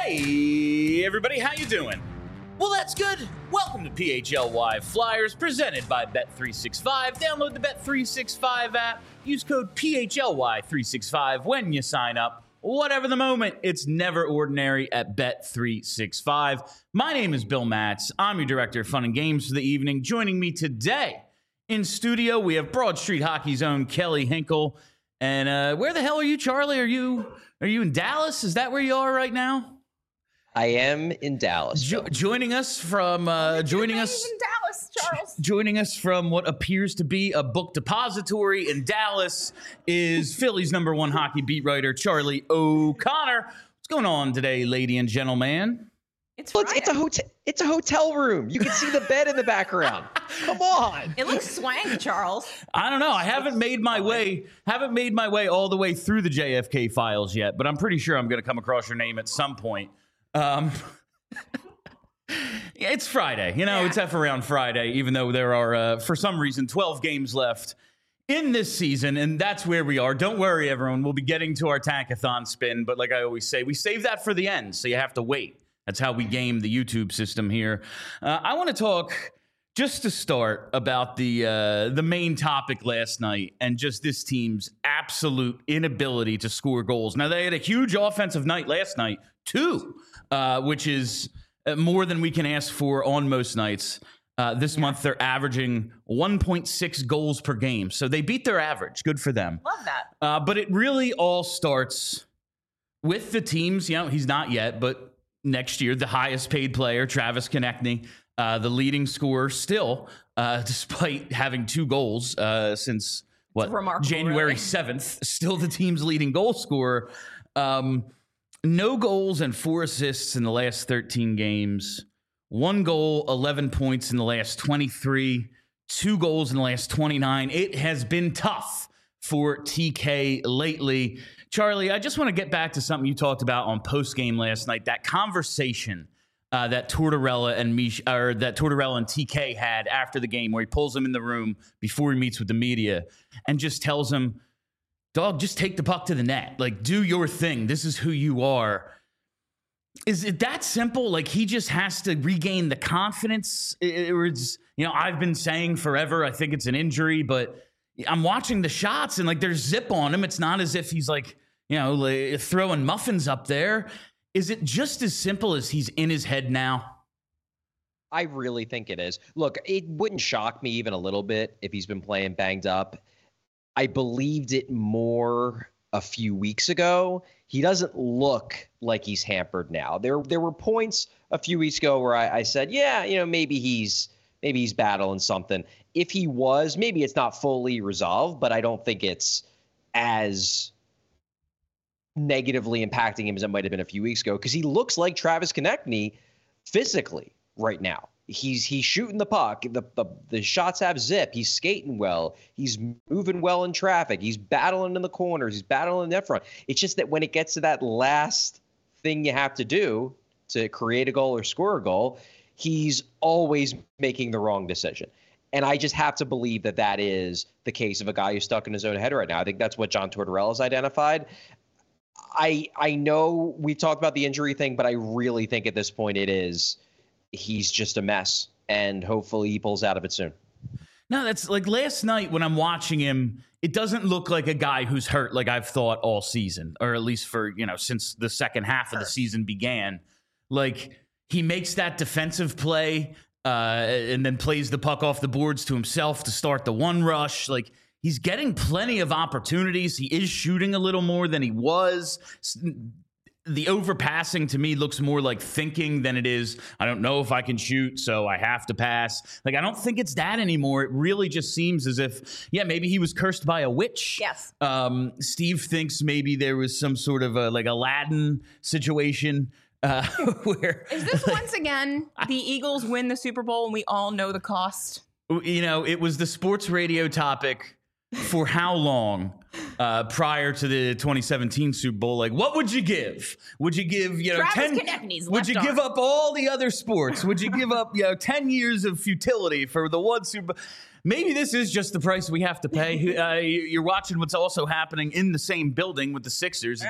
Hey, everybody, how you doing? Well, that's good. Welcome to PHLY Flyers, presented by Bet365. Download the Bet365 app. Use code PHLY365 when you sign up. Whatever the moment, it's never ordinary at Bet365. My name is Bill Matz. I'm your director of fun and games for the evening. Joining me today in studio, we have Broad Street Hockey's own Kelly Hinkle. And where the hell are you, Charlie? Are you in Dallas? Is that where you are right now? I am in Dallas. Joining us from joining us in Dallas, Charles. Joining us from what appears to be a book depository in Dallas is Philly's #1 hockey beat writer Charlie O'Connor. What's going on today, lady and gentleman? It's a hotel room. You can see the bed in the background. Come on. It looks swank, Charles. I don't know. I haven't made my way all the way through the JFK files yet, but I'm pretty sure I'm going to come across your name at some point. It's Friday. It's F around Friday, even though there are, for some reason, 12 games left in this season, and that's where we are. Don't worry, everyone. We'll be getting to our Tankathon spin, but like I always say, we save that for the end, so you have to wait. That's how we game the YouTube system here. I want to talk, just to start, about the main topic last night and just this team's absolute inability to score goals. Now, they had a huge offensive night last night, too, which is more than we can ask for on most nights. This month, they're averaging 1.6 goals per game. So they beat their average. Good for them. Love that. But it really all starts with the teams. He's not yet, but next year, the highest paid player, Travis Konecny, the leading scorer still, despite having 2 goals since, January 7th, still the team's leading goal scorer. No goals and 4 assists in the last 13 games. 1 goal, 11 points in the last 23. 2 goals in the last 29. It has been tough for TK lately. Charlie, I just want to get back to something you talked about on postgame last night. That conversation that Tortorella and TK had after the game, where he pulls him in the room before he meets with the media and just tells him, "Dog, just take the puck to the net. Like, do your thing. This is who you are." Is it that simple? Like, he just has to regain the confidence? I've been saying forever, I think it's an injury, but I'm watching the shots and like there's zip on him. It's not as if he's like throwing muffins up there. Is it just as simple as he's in his head now? I really think it is. Look, it wouldn't shock me even a little bit if he's been playing banged up. I believed it more a few weeks ago. He doesn't look like he's hampered now. There were points a few weeks ago where I said, maybe he's battling something. If he was, maybe it's not fully resolved, but I don't think it's as negatively impacting him as it might have been a few weeks ago, because he looks like Travis Konecny physically right now. He's shooting the puck. The shots have zip. He's skating well. He's moving well in traffic. He's battling in the corners. He's battling in net front. It's just that when it gets to that last thing you have to do to create a goal or score a goal, he's always making the wrong decision. And I just have to believe that is the case of a guy who's stuck in his own head right now. I think that's what John Tortorella has identified. I know we talked about the injury thing, but I really think at this point he's just a mess, and hopefully he pulls out of it soon. No, that's like last night when I'm watching him, it doesn't look like a guy who's hurt like I've thought all season, or at least for, since the second half of the season began. Like, he makes that defensive play and then plays the puck off the boards to himself to start the one rush. Like, he's getting plenty of opportunities. He is shooting a little more than he was. The overpassing to me looks more like thinking than it is, I don't know if I can shoot, so I have to pass. Like, I don't think it's that anymore. It really just seems as if, maybe he was cursed by a witch. Yes. Steve thinks maybe there was some sort of a Aladdin situation where... Is this once again the Eagles win the Super Bowl and we all know the cost? It was the sports radio topic for how long prior to the 2017 Super Bowl? Like, what would you give? Would you give, Travis Konecny's would you left give arm. up all the other sports? Would you give up, 10 years of futility for the one Super Bowl? Maybe this is just the price we have to pay. You're watching what's also happening in the same building with the Sixers.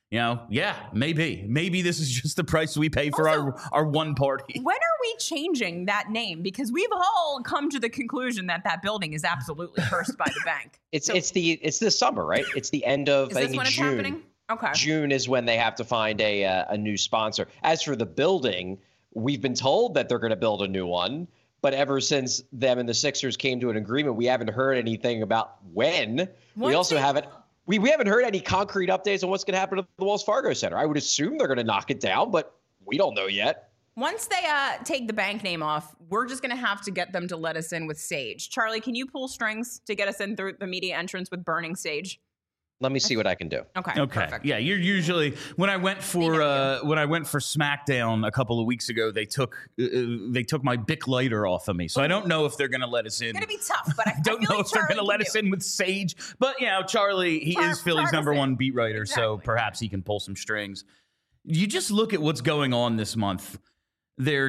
Yeah, maybe this is just the price we pay for Also, our one party. When are we changing that name? Because we've all come to the conclusion that building is absolutely cursed by the bank. It's this summer, right? It's the end of Is this when it's June. happening? Okay. June is when they have to find a new sponsor. As for the building, we've been told that they're going to build a new one, but ever since them and the Sixers came to an agreement, we haven't heard anything about when. We haven't heard any concrete updates on what's going to happen to the Wells Fargo Center. I would assume they're going to knock it down, but we don't know yet. Once they take the bank name off, we're just going to have to get them to let us in with sage. Charlie, can you pull strings to get us in through the media entrance with burning sage? Let me see what I can do. Okay. Perfect. Yeah, you're usually when I went for SmackDown a couple of weeks ago, they took my Bic lighter off of me, so I don't know if they're going to let us in. It's going to be tough, but I don't know if they're going to let us in with sage. But Charlie, he is Philly's number one beat writer, so perhaps he can pull some strings. You just look at what's going on this month. They're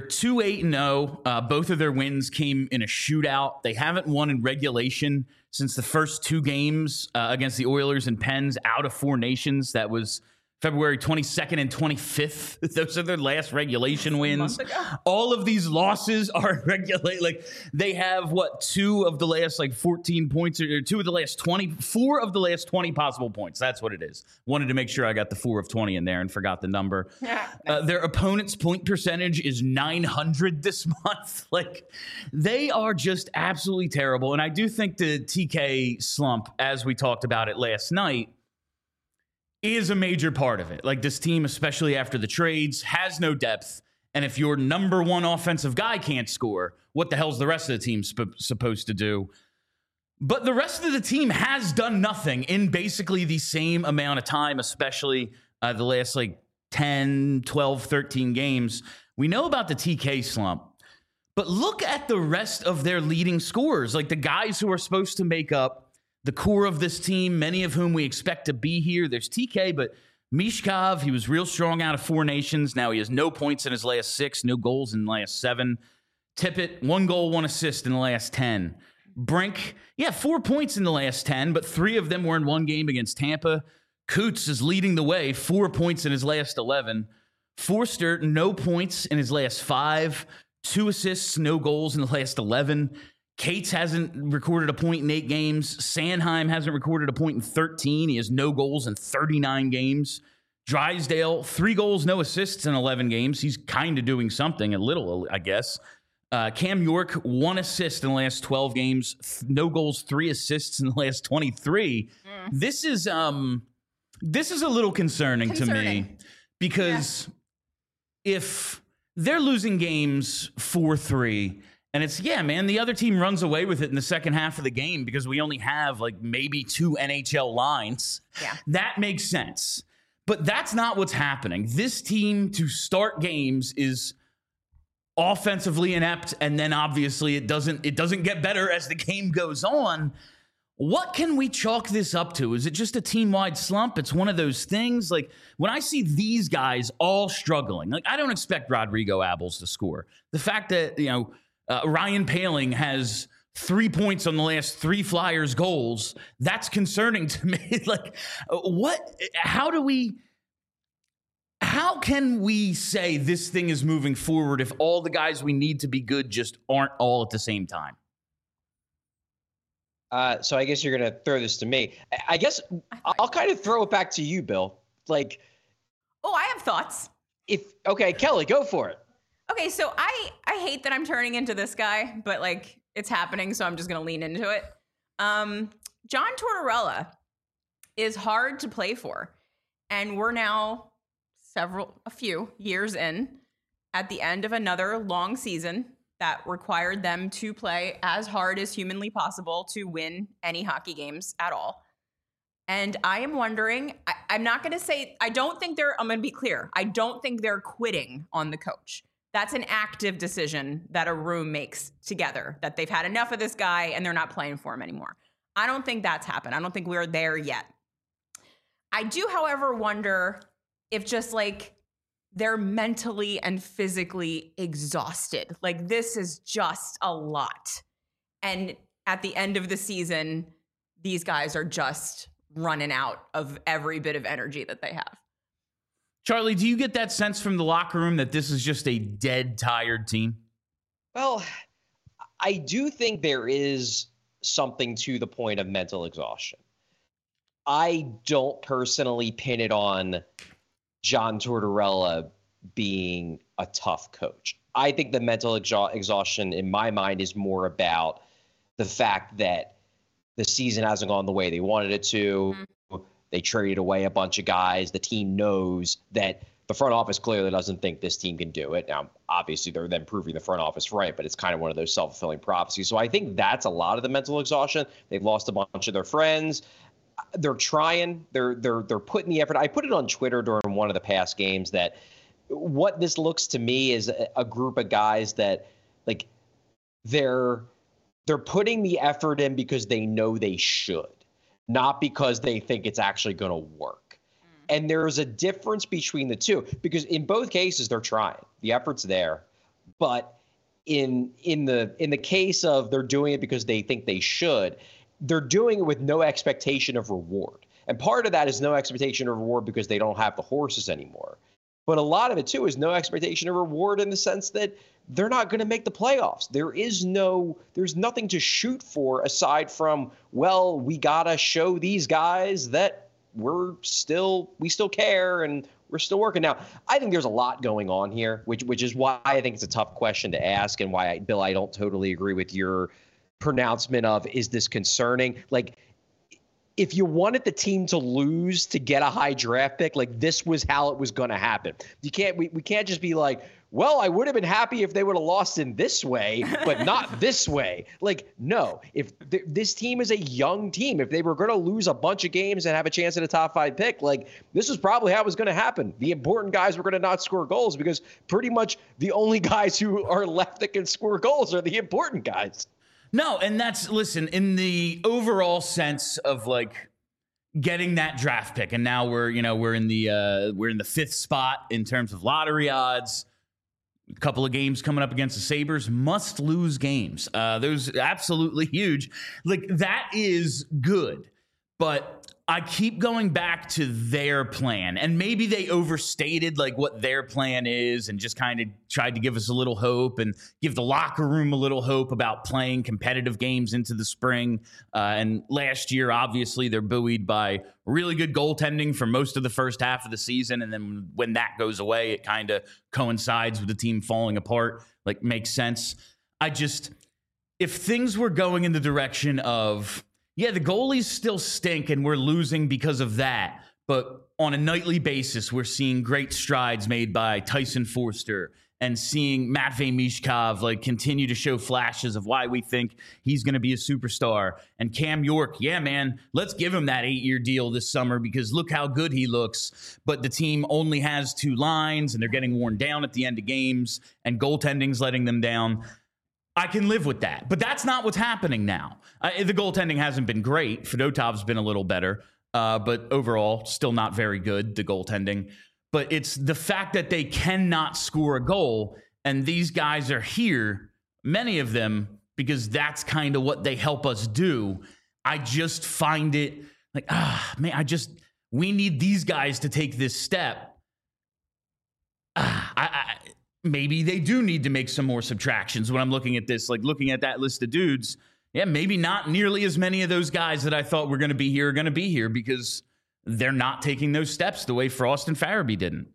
2-8-0. Both of their wins came in a shootout. They haven't won in regulation since the first two games against the Oilers and Pens out of Four Nations. That was February 22nd and 25th. Those are their last regulation wins. All of these losses are regulate. Like they have two of the last 14 points or two of the last 4 of the last 20 possible points. That's what it is. Wanted to make sure I got the 4 of 20 in there and forgot the number. Their opponent's point percentage is 900 this month. They are just absolutely terrible. And I do think the TK slump, as we talked about it last night, is a major part of it. This team, especially after the trades, has no depth. And if your number one offensive guy can't score, what the hell's the rest of the team supposed to do? But the rest of the team has done nothing in basically the same amount of time, especially the last 10, 12, 13 games. We know about the TK slump, but look at the rest of their leading scorers, the guys who are supposed to make up the core of this team, many of whom we expect to be here. There's TK, but Mishkov, he was real strong out of Four Nations. Now he has no points in his last 6, no goals in the last 7. Tippett, 1 goal, 1 assist in the last 10. Brink, 4 points in the last 10, but 3 of them were in one game against Tampa. Coots is leading the way, 4 points in his last 11. Forster, no points in his last 5. 2 assists, no goals in the last 11. Cates hasn't recorded a point in 8 games. Sanheim hasn't recorded a point in 13. He has no goals in 39 games. Drysdale, 3 goals, no assists in 11 games. He's kind of doing something, a little, I guess. Cam York, 1 assist in the last 12 games. No goals, 3 assists in the last 23. This is a little concerning to me because if they're losing games 4-3, and it's, the other team runs away with it in the second half of the game because we only have maybe 2 NHL lines. Yeah. That makes sense. But that's not what's happening. This team to start games is offensively inept, and then obviously it doesn't get better as the game goes on. What can we chalk this up to? Is it just a team-wide slump? It's one of those things. When I see these guys all struggling, I don't expect Rodrigo Abels to score. The fact that, Ryan Poehling has 3 points on the last 3 Flyers goals, that's concerning to me. How can we say this thing is moving forward if all the guys we need to be good just aren't all at the same time? So I guess you're going to throw this to me. I guess I'll kind of throw it back to you, Bill. I have thoughts. Okay, Kelly, go for it. Okay, so I hate that I'm turning into this guy, but it's happening, so I'm just gonna lean into it. John Tortorella is hard to play for, and we're now a few years in at the end of another long season that required them to play as hard as humanly possible to win any hockey games at all. And I am wondering, I'm not gonna say, I'm gonna be clear, I don't think they're quitting on the coach. That's an active decision that a room makes together, that they've had enough of this guy and they're not playing for him anymore. I don't think that's happened. I don't think we're there yet. I do, however, wonder if just they're mentally and physically exhausted. This is just a lot. And at the end of the season, these guys are just running out of every bit of energy that they have. Charlie, do you get that sense from the locker room that this is just a dead, tired team? Well, I do think there is something to the point of mental exhaustion. I don't personally pin it on John Tortorella being a tough coach. I think the mental exhaustion in my mind is more about the fact that the season hasn't gone the way they wanted it to. Mm-hmm. They traded away a bunch of guys. The team knows that the front office clearly doesn't think this team can do it. Now, obviously, they're then proving the front office right, but it's kind of one of those self-fulfilling prophecies. So I think that's a lot of the mental exhaustion. They've lost a bunch of their friends. They're trying. They're putting the effort. I put it on Twitter during one of the past games that what this looks to me is a group of guys that, like, they're putting the effort in because they know they should, not because they think it's actually going to work. And there's a difference between the two, because in both cases they're trying. The effort's there, but in the case of they're doing it because they think they should, they're doing it with no expectation of reward. And part of that is no expectation of reward because they don't have the horses anymore. But a lot of it, too, is no expectation of reward in the sense that they're not going to make the playoffs. There's nothing to shoot for aside from, well, we got to show these guys that we still care and we're still working. Now, I think there's a lot going on here, which is why I think it's a tough question to ask and why, Bill, I don't totally agree with your pronouncement of, is this concerning? Like, if you wanted the team to lose to get a high draft pick, like, this was how it was going to happen. We can't just be like, well, I would have been happy if they would have lost in this way, but not this way. Like, no, if this team is a young team, if they were going to lose a bunch of games and have a chance at a top 5 pick, like, this is probably how it was going to happen. The important guys were going to not score goals because pretty much the only guys who are left that can score goals are the important guys. No, and listen, in the overall sense of, like, getting that draft pick, and now we're in the 5th spot in terms of lottery odds. A couple of games coming up against the Sabres, must lose games. Those absolutely huge. Like, that is good, but I keep going back to their plan, and maybe they overstated, like, what their plan is and just kind of tried to give us a little hope and give the locker room a little hope about playing competitive games into the spring. And last year, obviously, they're buoyed by really good goaltending for most of the first half of the season. And then when that goes away, it kind of coincides with the team falling apart. Like, makes sense. If things were going in the direction of, yeah, the goalies still stink and we're losing because of that, but on a nightly basis, we're seeing great strides made by Tyson Foerster and seeing Matvei Mishkov, like, continue to show flashes of why we think he's going to be a superstar. And Cam York, yeah, man, let's give him that 8-year deal this summer because look how good he looks. But the team only has 2 lines and they're getting worn down at the end of games and goaltending's letting them down. I can live with that, but that's not what's happening now. The goaltending hasn't been great. Fedotov's been a little better, but overall, still not very good, the goaltending. But it's the fact that they cannot score a goal, and these guys are here, many of them, because that's kind of what they help us do. I just find it like, we need these guys to take this step. Maybe they do need to make some more subtractions when I'm looking at this, like looking at that list of dudes. Yeah, maybe not nearly as many of those guys that I thought were going to be here are going to be here because they're not taking those steps the way Frost and Farabee didn't.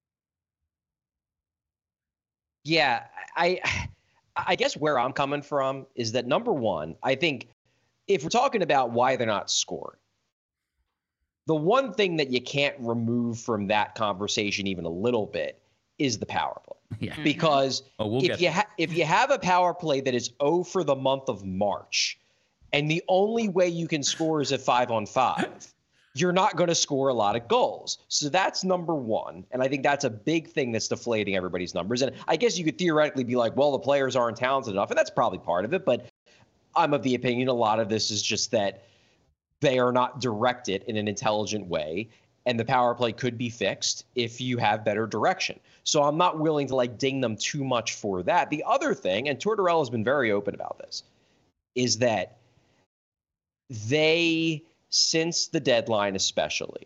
Yeah, I guess where I'm coming from is that, number one, I think if we're talking about why they're not scoring, the one thing that you can't remove from that conversation even a little bit is the power play. Yeah. Because if you have a power play that is 0 for the month of March, and the only way you can score is at 5-on-5, you're not going to score a lot of goals. So that's number one. And I think that's a big thing that's deflating everybody's numbers. And I guess you could theoretically be like, well, the players aren't talented enough. And that's probably part of it. But I'm of the opinion a lot of this is just that they are not directed in an intelligent way. And the power play could be fixed if you have better direction. So I'm not willing to, like, ding them too much for that. The other thing, and Tortorella has been very open about this, is that they, since the deadline especially,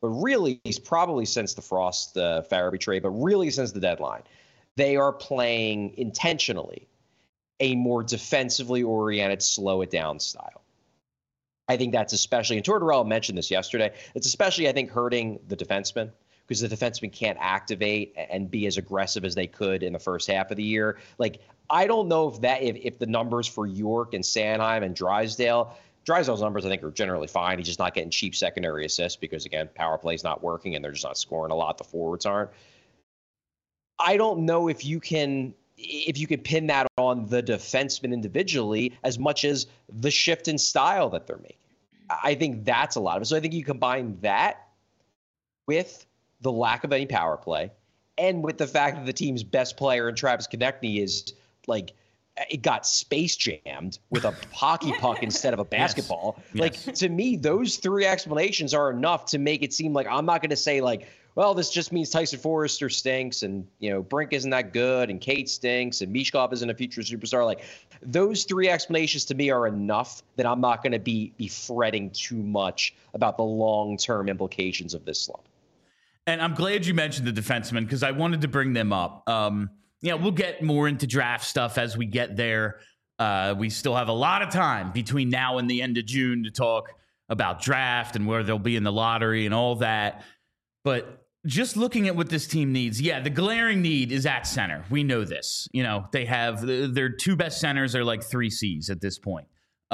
but really probably since the Frost Farabee trade, but really since the deadline, they are playing intentionally a more defensively oriented, slow it down style. I think that's especially, and Tortorella mentioned this yesterday, it's especially, I think, hurting the defensemen because the defensemen can't activate and be as aggressive as they could in the first half of the year. Like, I don't know if the numbers for York and Sanheim and Drysdale's numbers, I think, are generally fine. He's just not getting cheap secondary assists because, again, power play's not working and they're just not scoring a lot. The forwards aren't. I don't know if you can pin that on the defenseman individually as much as the shift in style that they're making. I think that's a lot of it. So I think you combine that with the lack of any power play and with the fact that the team's best player in Travis Konecny is like, it got space jammed with a hockey puck instead of a basketball. Yes. Like, to me, those three explanations are enough to make it seem like I'm not going to say like, well, this just means Tyson Forrester stinks and, Brink isn't that good and Kate stinks and Mishkov isn't a future superstar. Like, those three explanations to me are enough that I'm not going to be fretting too much about the long-term implications of this slump. And I'm glad you mentioned the defensemen because I wanted to bring them up. We'll get more into draft stuff as we get there. We still have a lot of time between now and the end of June to talk about draft and where they'll be in the lottery and all that. But just looking at what this team needs, the glaring need is at center. We know this. They have their two best centers are like 3Cs at this point.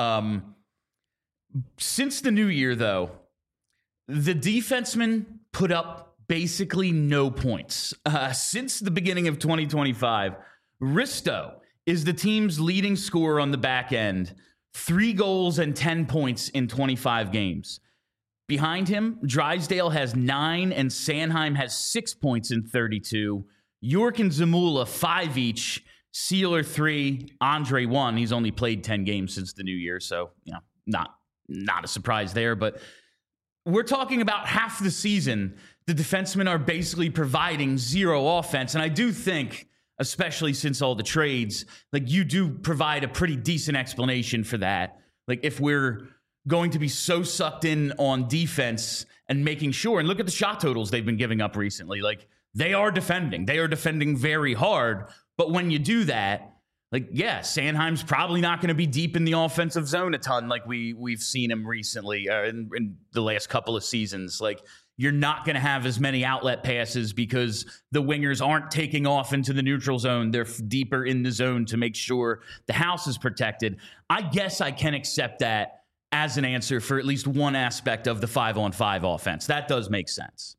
Since the new year, though, the defensemen put up basically no points. Since the beginning of 2025, Risto is the team's leading scorer on the back end, 3 goals and 10 points in 25 games. Behind him, Drysdale has 9 and Sanheim has 6 points in 32. York and Zamula 5 each, Sealer 3, Andre 1. He's only played 10 games since the new year, so not a surprise there. But we're talking about half the season. The defensemen are basically providing zero offense. And I do think, especially since all the trades, like you do provide a pretty decent explanation for that. Like if we're going to be so sucked in on defense and making sure, and look at the shot totals they've been giving up recently. Like they are defending very hard. But when you do that, Sanheim's probably not going to be deep in the offensive zone a ton like we've seen him recently in the last couple of seasons. Like you're not going to have as many outlet passes because the wingers aren't taking off into the neutral zone. They're deeper in the zone to make sure the house is protected. I guess I can accept that as an answer for at least one aspect of the 5-on-5 offense. That does make sense.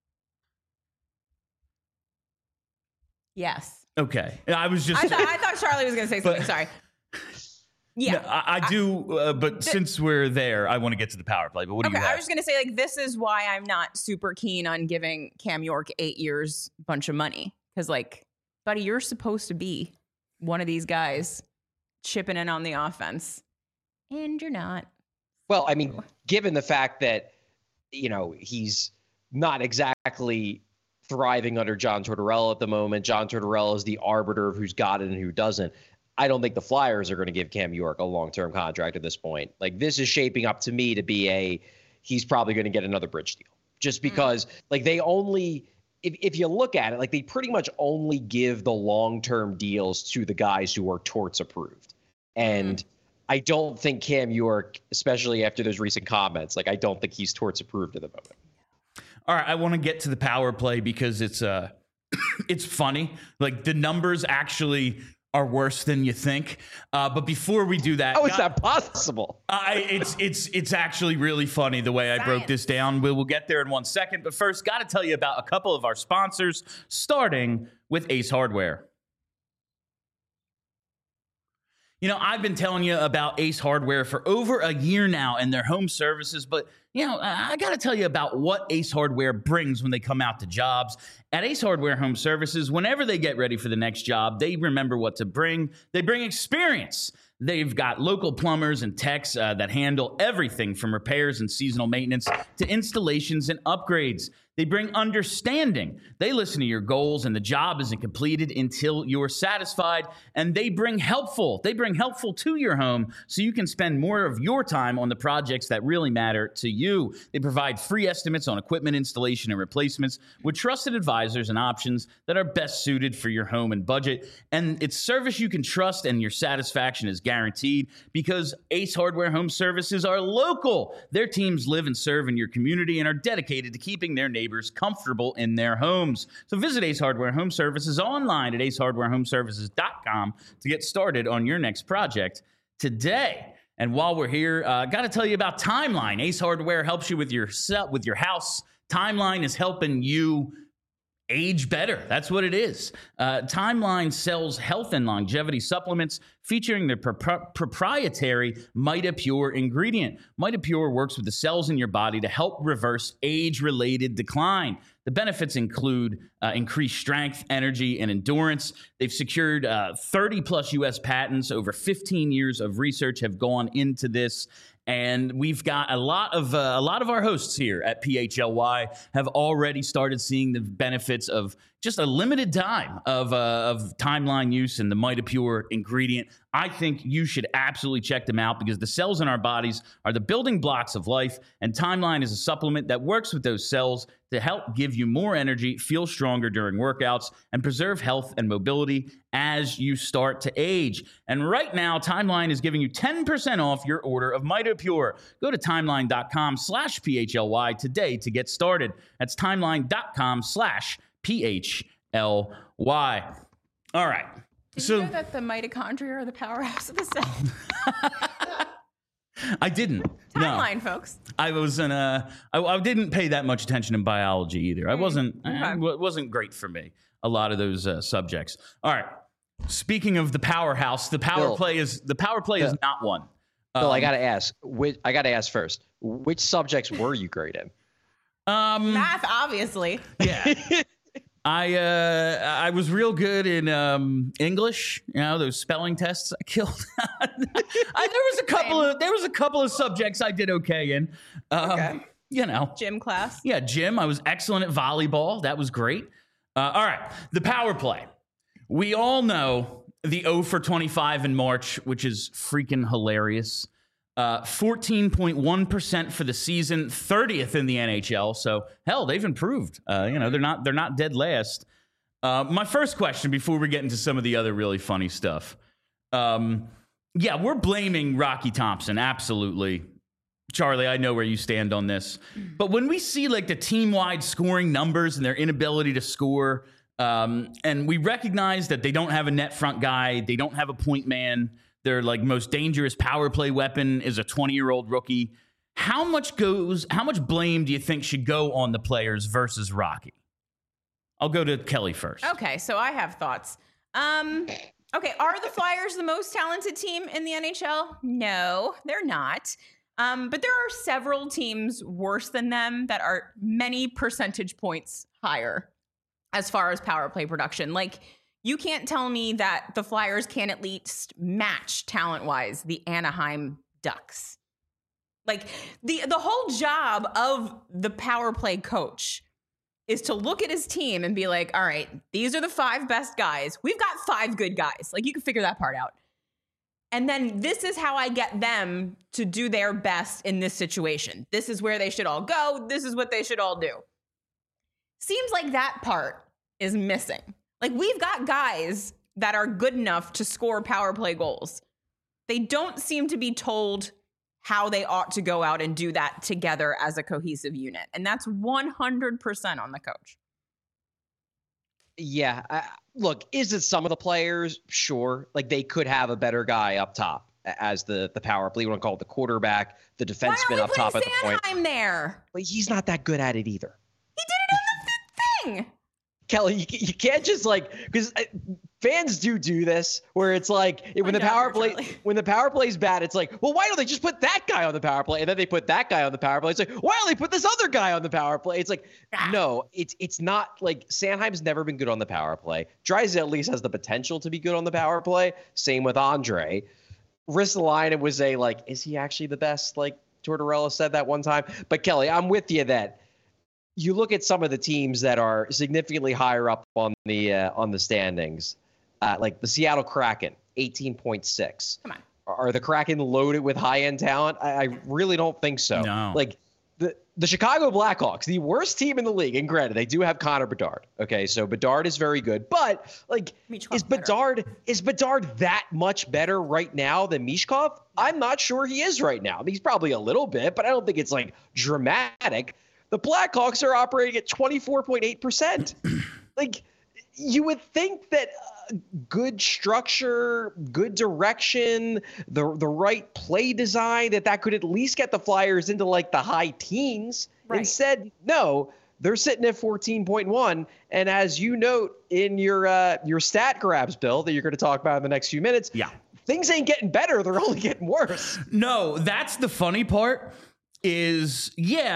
Yes. Okay. I thought Charlie was going to say something. Sorry. Yeah. No, I do, but since we're there, I want to get to the power play. But what do you have? I was going to say, this is why I'm not super keen on giving Cam York 8 years, bunch of money. Because, buddy, you're supposed to be one of these guys chipping in on the offense. And you're not. Well, I mean, given the fact that, he's not exactly thriving under John Tortorella at the moment. John Tortorella is the arbiter of who's got it and who doesn't. I don't think the Flyers are going to give Cam York a long-term contract at this point. This is shaping up to me to be he's probably going to get another bridge deal just because they only, if you look at it, they pretty much only give the long-term deals to the guys who are Torts approved. And I don't think Cam York, especially after those recent comments, I don't think he's Torts approved at the moment. All right, I want to get to the power play because it's funny. The numbers actually are worse than you think. But before we do that, how is that possible? It's actually really funny the way I broke this down. We'll get there in 1 second. But first, got to tell you about a couple of our sponsors, starting with Ace Hardware. I've been telling you about Ace Hardware for over a year now and their home services, but I got to tell you about what Ace Hardware brings when they come out to jobs. At Ace Hardware Home Services, whenever they get ready for the next job, they remember what to bring. They bring experience. They've got local plumbers and techs that handle everything from repairs and seasonal maintenance to installations and upgrades. They bring understanding. They listen to your goals, and the job isn't completed until you're satisfied. And they bring helpful. They bring helpful to your home so you can spend more of your time on the projects that really matter to you. They provide free estimates on equipment installation and replacements with trusted advisors and options that are best suited for your home and budget. And it's service you can trust, and your satisfaction is guaranteed because Ace Hardware Home Services are local. Their teams live and serve in your community and are dedicated to keeping their neighbors comfortable in their homes. So visit Ace Hardware Home Services online at acehardwarehomeservices.com to get started on your next project today. And while we're here, got to tell you about Timeline. Ace Hardware helps you with your house. Timeline is helping you age better. That's what it is. Timeline sells health and longevity supplements featuring their proprietary MitoPure ingredient. MitoPure works with the cells in your body to help reverse age-related decline. The benefits include increased strength, energy, and endurance. They've secured 30-plus U.S. patents. Over 15 years of research have gone into this. And we've got a lot of our hosts here at PHLY have already started seeing the benefits of just a limited time of Timeline use and the MitoPure ingredient. I think you should absolutely check them out because the cells in our bodies are the building blocks of life, and Timeline is a supplement that works with those cells to help give you more energy, feel stronger during workouts, and preserve health and mobility as you start to age. And right now, Timeline is giving you 10% off your order of MitoPure. Go to timeline.com/PHLY today to get started. That's timeline.com/PHLY. All right. Did you know that the mitochondria are the powerhouse of the cell? I didn't. Timeline, no. folks. I wasn't. I didn't pay that much attention in biology either. I wasn't. Okay. It wasn't great for me. A lot of those subjects. All right. Speaking of the powerhouse, the power play is not one. Bill, I got to ask. I got to ask first. Which subjects were you great in? Math, obviously. Yeah. I was real good in English. You know, those spelling tests I killed. There was a couple of subjects I did okay in. Okay. You know, Gym class. Yeah, gym. I was excellent at volleyball. That was great. All right, the power play. We all know the 0 for 25 in March, which is freaking hilarious. 14.1% for the season, 30th in the NHL. So hell, they've improved. They're not dead last. My first question before we get into some of the other really funny stuff. We're blaming Rocky Thompson. Absolutely. Charlie, I know where you stand on this. But when we see like the team-wide scoring numbers and their inability to score, and we recognize that they don't have a net front guy, they don't have a point man, their like most dangerous power play weapon is a 20-year-old rookie. How much blame do you think should go on the players versus Rocky? I'll go to Kelly first. Okay, so I have thoughts. Okay, are the Flyers the most talented team in the NHL? No, they're not. But there are several teams worse than them that are many percentage points higher as far as power play production. Like, you can't tell me that the Flyers can at least match talent-wise the Anaheim Ducks. Like, the whole job of the power play coach is to look at his team and be like, all right, these are the 5 best guys. We've got 5 good guys. Like, you can figure that part out. And then this is how I get them to do their best in this situation. This is where they should all go. This is what they should all do. Seems like that part is missing. Like, we've got guys that are good enough to score power play goals. They don't seem to be told how they ought to go out and do that together as a cohesive unit. And that's 100% on the coach. Yeah. Look, is it some of the players? Sure. Like, they could have a better guy up top as the power play. You want to call it the quarterback, the defenseman up top at the point. Sanheim there? But he's not that good at it either. He did it on the thing. Kelly, you can't just because fans do this where it's like when the power play's bad, it's like, well, why don't they just put that guy on the power play? And then they put that guy on the power play. It's like, why don't they put this other guy on the power play? It's like, no, it's not like Sanheim's never been good on the power play. Draisaitl at least has the potential to be good on the power play. Same with Andre. Ristolainen was is he actually the best? Like Tortorella said that one time. But Kelly, I'm with you that you look at some of the teams that are significantly higher up on the standings, like the Seattle Kraken, 18.6. Come on. Are the Kraken loaded with high-end talent? I really don't think so. No. Like the Chicago Blackhawks, the worst team in the league, and granted, they do have Connor Bedard. Okay, so Bedard is very good, but like, is Bedard that much better right now than Mishkov? I'm not sure he is right now. I mean, he's probably a little bit, but I don't think it's like dramatic. The Blackhawks are operating at 24.8%. Like, you would think that good structure, good direction, the right play design, that could at least get the Flyers into like the high teens. Right. Instead, no, they're sitting at 14.1. And as you note in your stat grabs, Bill, that you're going to talk about in the next few minutes, things ain't getting better. They're only getting worse. No, that's the funny part is,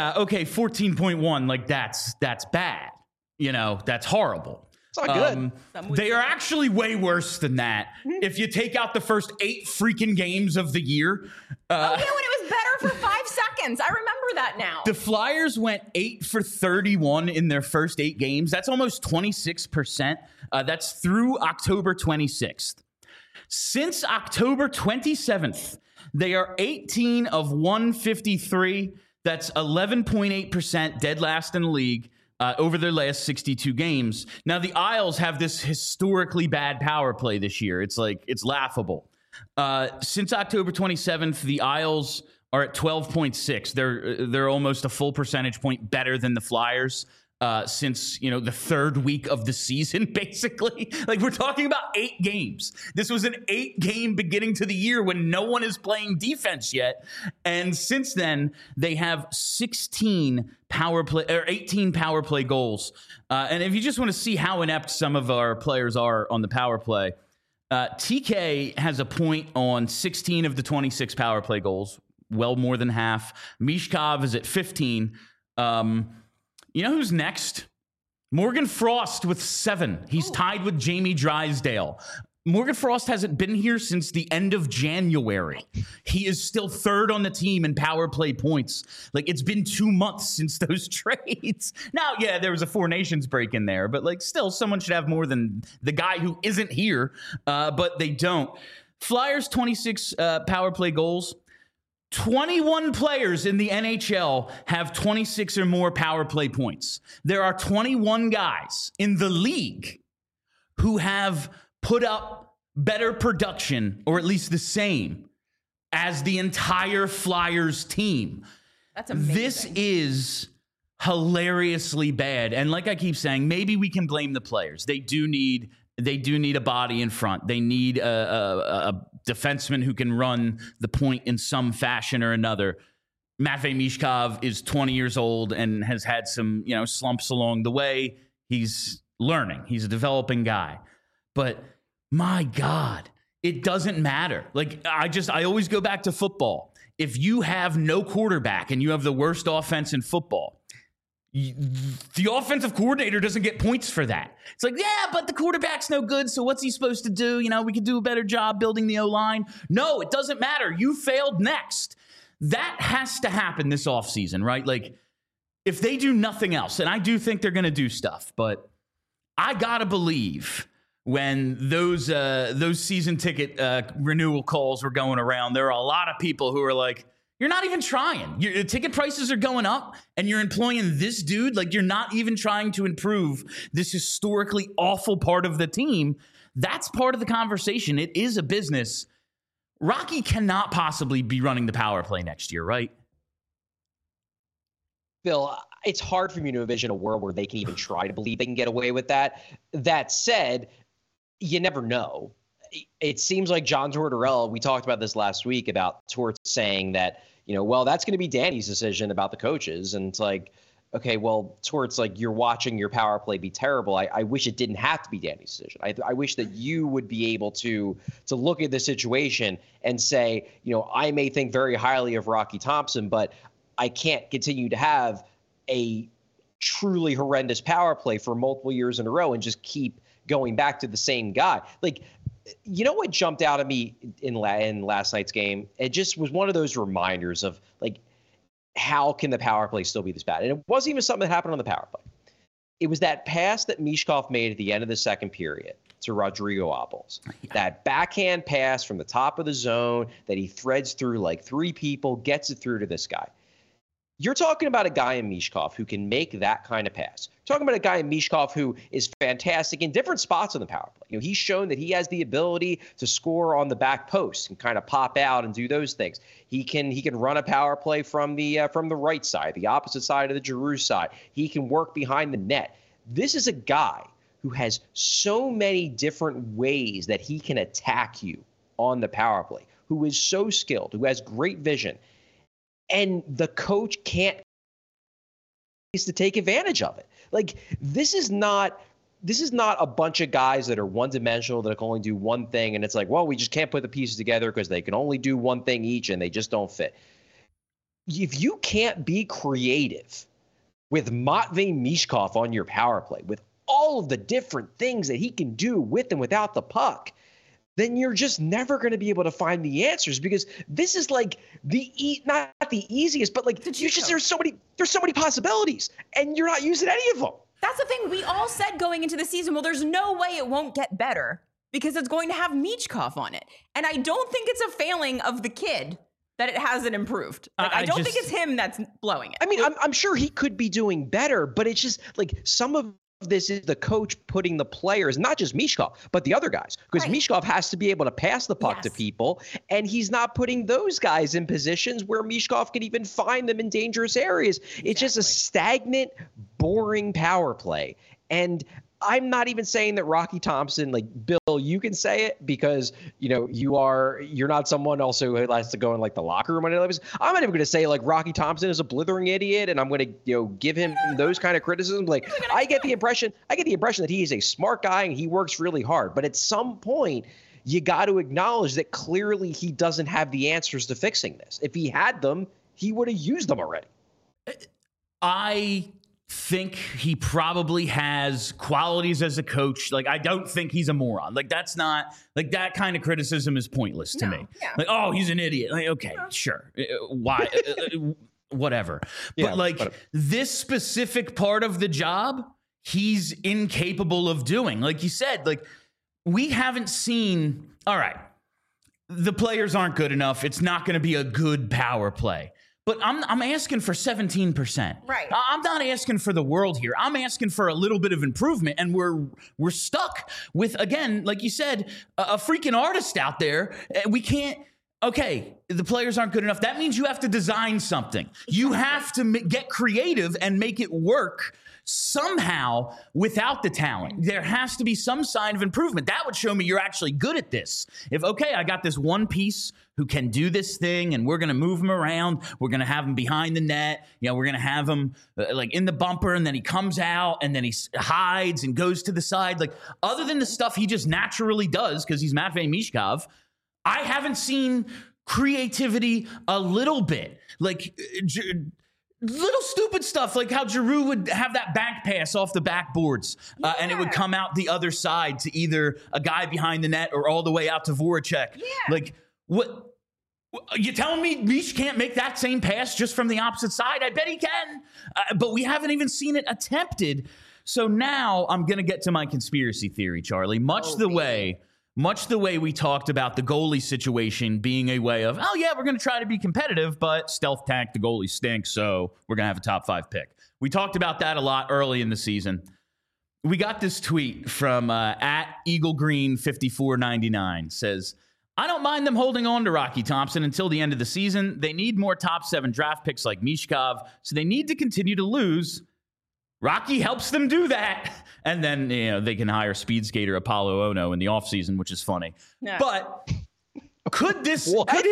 14.1, like that's bad. You know, that's horrible. It's not good. They are actually way worse than that. If you take out the first 8 freaking games of the year. When it was better for 5 seconds. I remember that now. The Flyers went 8 for 31 in their first 8 games. That's almost 26%. That's through October 26th. Since October 27th, they are 18 of 153. That's 11.8%, dead last in the league. Over their last 62 games. Now, the Isles have this historically bad power play this year. It's laughable. Since October 27th, the Isles are at 12.6. They're almost a full percentage point better than the Flyers since, the third week of the season, basically. Like, we're talking about 8 games. This was an 8-game beginning to the year when no one is playing defense yet. And since then, they have 18 power play goals. And if you just want to see how inept some of our players are on the power play, TK has a point on 16 of the 26 power play goals, well more than half. Mishkov is at 15. You know who's next? Morgan Frost with 7. He's tied with Jamie Drysdale. Morgan Frost hasn't been here since the end of January. He is still 3rd on the team in power play points. Like, it's been 2 months since those trades. Now, there was a 4 Nations break in there, but like, still, someone should have more than the guy who isn't here, but they don't. Flyers 26 power play goals. 21 players in the NHL have 26 or more power play points. There are 21 guys in the league who have put up better production, or at least the same, as the entire Flyers team. That's amazing. This is hilariously bad. And like I keep saying, maybe we can blame the players. They do need a body in front. They need a defenseman who can run the point in some fashion or another. Matvei Mishkov is 20 years old and has had some, slumps along the way. He's learning. He's a developing guy. But my God, it doesn't matter. Like, I always go back to football. If you have no quarterback and you have the worst offense in football, the offensive coordinator doesn't get points for that. It's like, but the quarterback's no good, so what's he supposed to do? We could do a better job building the O-line. No, it doesn't matter. You failed next. That has to happen this offseason, right? Like, if they do nothing else, and I do think they're going to do stuff, but I got to believe when those season ticket renewal calls were going around, there are a lot of people who are like, you're not even trying. Your ticket prices are going up, and you're employing this dude. Like, you're not even trying to improve this historically awful part of the team. That's part of the conversation. It is a business. Rocky cannot possibly be running the power play next year, right? Bill, it's hard for me to envision a world where they can even try to believe they can get away with that. That said, you never know. It seems like John Tortorella, we talked about this last week about Tort saying that, that's going to be Danny's decision about the coaches. And it's like, okay, well, Tort's like, you're watching your power play be terrible. I wish it didn't have to be Danny's decision. I wish that you would be able to look at the situation and say, I may think very highly of Rocky Thompson, but I can't continue to have a truly horrendous power play for multiple years in a row and just keep going back to the same guy. Like, what jumped out at me in last night's game? It just was one of those reminders of, like, how can the power play still be this bad? And it wasn't even something that happened on the power play. It was that pass that Michkov made at the end of the second period to Rodrigo Abels. Yeah. That backhand pass from the top of the zone that he threads through like 3 people, gets it through to this guy. You're talking about a guy in Michkov who can make that kind of pass. You're talking about a guy in Michkov who is fantastic in different spots on the power play. He's shown that he has the ability to score on the back post and kind of pop out and do those things. He can run a power play from the right side, the opposite side of the Giroux side. He can work behind the net. This is a guy who has so many different ways that he can attack you on the power play, who is so skilled, who has great vision. And the coach can't to take advantage of it. Like, this is not a bunch of guys that are one-dimensional that can only do one thing, and it's like, well, we just can't put the pieces together because they can only do one thing each and they just don't fit. If you can't be creative with Matvei Michkov on your power play, with all of the different things that he can do with and without the puck, then you're just never going to be able to find the answers, because this is like not the easiest, but like there's so many possibilities, and you're not using any of them. That's the thing. We all said going into the season, well, there's no way it won't get better because it's going to have Michkov on it. And I don't think it's a failing of the kid that it hasn't improved. Like, I don't think it's him that's blowing it. I mean, I'm sure he could be doing better, but it's just like some of this is the coach putting the players, not just Michkov, but the other guys, because Michkov has to be able to pass the puck to people, and he's not putting those guys in positions where Michkov can even find them in dangerous areas. Exactly. It's just a stagnant, boring power play. And I'm not even saying that Rocky Thompson, like, Bill, you can say it because, you're not someone also who likes to go in like the locker room. I'm not even going to say like Rocky Thompson is a blithering idiot and I'm going to, give him those kind of criticisms. Like, I get the impression that he is a smart guy and he works really hard. But at some point, you got to acknowledge that clearly he doesn't have the answers to fixing this. If he had them, he would have used them already. I think he probably has qualities as a coach. Like, I don't think he's a moron. Like, that's not, like, that kind of criticism is pointless to me. Yeah. Like, oh, he's an idiot. Like, okay, sure. Why? Whatever. Yeah, but like this specific part of the job, he's incapable of doing. Like you said, like, we haven't seen, all right, the players aren't good enough. It's not going to be a good power play. But I'm asking for 17%. Right. I'm not asking for the world here. I'm asking for a little bit of improvement, and we're stuck with, again, like you said, a freaking artist out there. We can't. Okay, the players aren't good enough. That means you have to design something. You have to get creative and make it work somehow without the talent. There has to be some sign of improvement. That would show me you're actually good at this. If, okay, I got this one piece who can do this thing and we're going to move him around. We're going to have him behind the net. We're going to have him like in the bumper, and then he comes out and then he hides and goes to the side. Like, other than the stuff he just naturally does because he's Matvei Michkov, I haven't seen creativity a little bit. Like, little stupid stuff like how Giroux would have that back pass off the backboards and it would come out the other side to either a guy behind the net or all the way out to Voracek. Yeah. Like, what? You telling me Mish can't make that same pass just from the opposite side? I bet he can. But we haven't even seen it attempted. So now I'm going to get to my conspiracy theory, Charlie. Much the way we talked about the goalie situation being a way of, oh, yeah, we're going to try to be competitive, but stealth tank, the goalie stinks, so we're going to have a top 5 pick. We talked about that a lot early in the season. We got this tweet from at EagleGreen5499. Says, I don't mind them holding on to Rocky Thompson until the end of the season. They need more top 7 draft picks like Michkov, so they need to continue to lose. Rocky helps them do that. And then, they can hire speed skater Apollo Ono in the offseason, which is funny. Yeah. But could his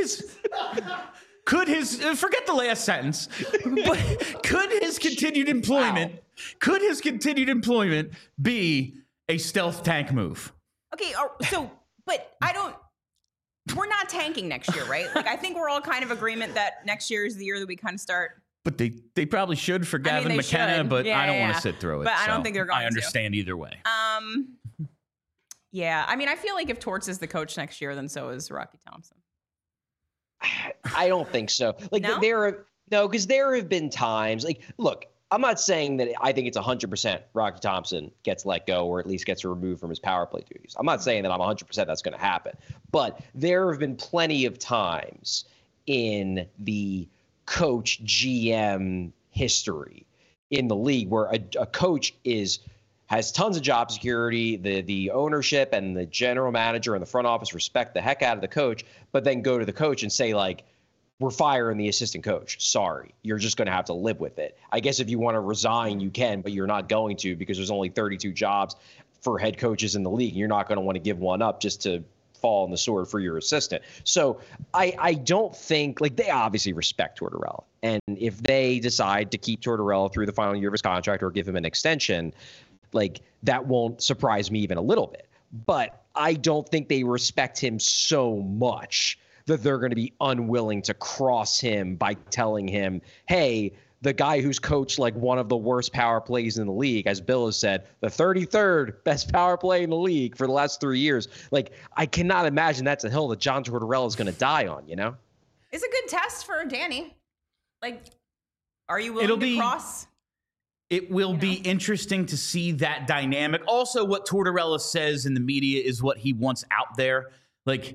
forget the last sentence, but could his continued employment be a stealth tank move? Okay, but we're not tanking next year, right? Like, I think we're all kind of agreement that next year is the year that we kind of start. But they probably should for Gavin McKenna, but I don't want to sit through it. But I don't think they're going to. I understand either way. Yeah. I mean, I feel like if Torts is the coach next year, then so is Rocky Thompson. I don't think so. Like, no? No, because there have been times like, look, I'm not saying that I think it's 100% Rocky Thompson gets let go or at least gets removed from his power play duties. I'm not saying that I'm 100% that's going to happen. But there have been plenty of times in the coach GM history in the league where a coach has tons of job security, the ownership and the general manager and the front office respect the heck out of the coach, but then go to the coach and say, like, we're firing the assistant coach. Sorry, you're just going to have to live with it. I guess if you want to resign, you can, but you're not going to because there's only 32 jobs for head coaches in the league. You're not going to want to give one up just to fall on the sword for your assistant. So I don't think, like, they obviously respect Tortorella. And if they decide to keep Tortorella through the final year of his contract or give him an extension, like, that won't surprise me even a little bit. But I don't think they respect him so much that they're going to be unwilling to cross him by telling him, hey, the guy who's coached like one of the worst power plays in the league, as Bill has said, the 33rd best power play in the league for the last 3 years. Like, I cannot imagine that's a hill that John Tortorella is going to die on, you know? It's a good test for Danny. Like, are you willing to cross? It will be interesting to see that dynamic. Also, what Tortorella says in the media is what he wants out there. Like,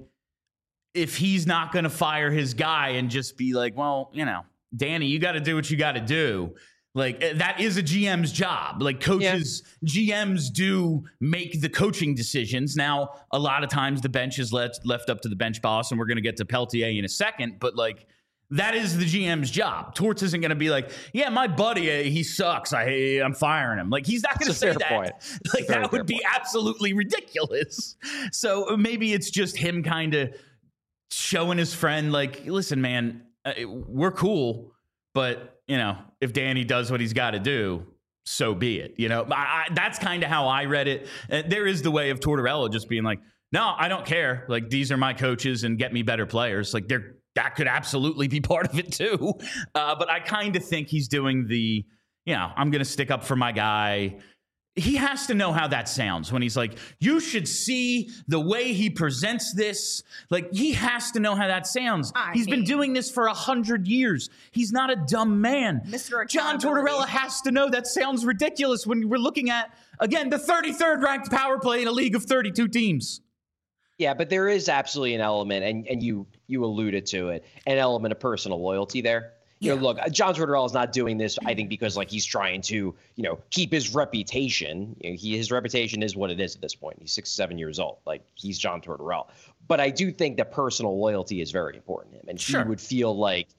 if he's not going to fire his guy and just be like, well, you know, Danny, you got to do what you got to do. Like, that is a GM's job. Like, coaches, GMs do make the coaching decisions. Now, a lot of times the bench is left up to the bench boss, and we're going to get to Peltier in a second. But, like, that is the GM's job. Torts isn't going to be like, yeah, my buddy, he sucks. I'm firing him. Like, he's not going to say that. Point. Like, that would be absolutely ridiculous. So maybe it's just him kind of showing his friend, like, listen, man, we're cool, but, you know, if Danny does what he's got to do, so be it. You know, that's kind of how I read it. There is the way of Tortorella just being like, no, I don't care. Like, these are my coaches and get me better players. Like, that could absolutely be part of it too. But I kind of think he's doing the, you know, I'm going to stick up for my guy. He has to know how that sounds when he's like, you should see the way he presents this. Like, he has to know how that sounds. He's been doing this for 100 years. He's not a dumb man. John Tortorella has to know that sounds ridiculous when we're looking at, again, the 33rd ranked power play in a league of 32 teams. Yeah, but there is absolutely an element, and you alluded to it, an element of personal loyalty there. You know, look, John Tortorella is not doing this, I think, because, like, he's trying to, you know, keep his reputation. You know, his reputation is what it is at this point. He's 67 years old. Like, he's John Tortorella. But I do think that personal loyalty is very important to him. And he would feel like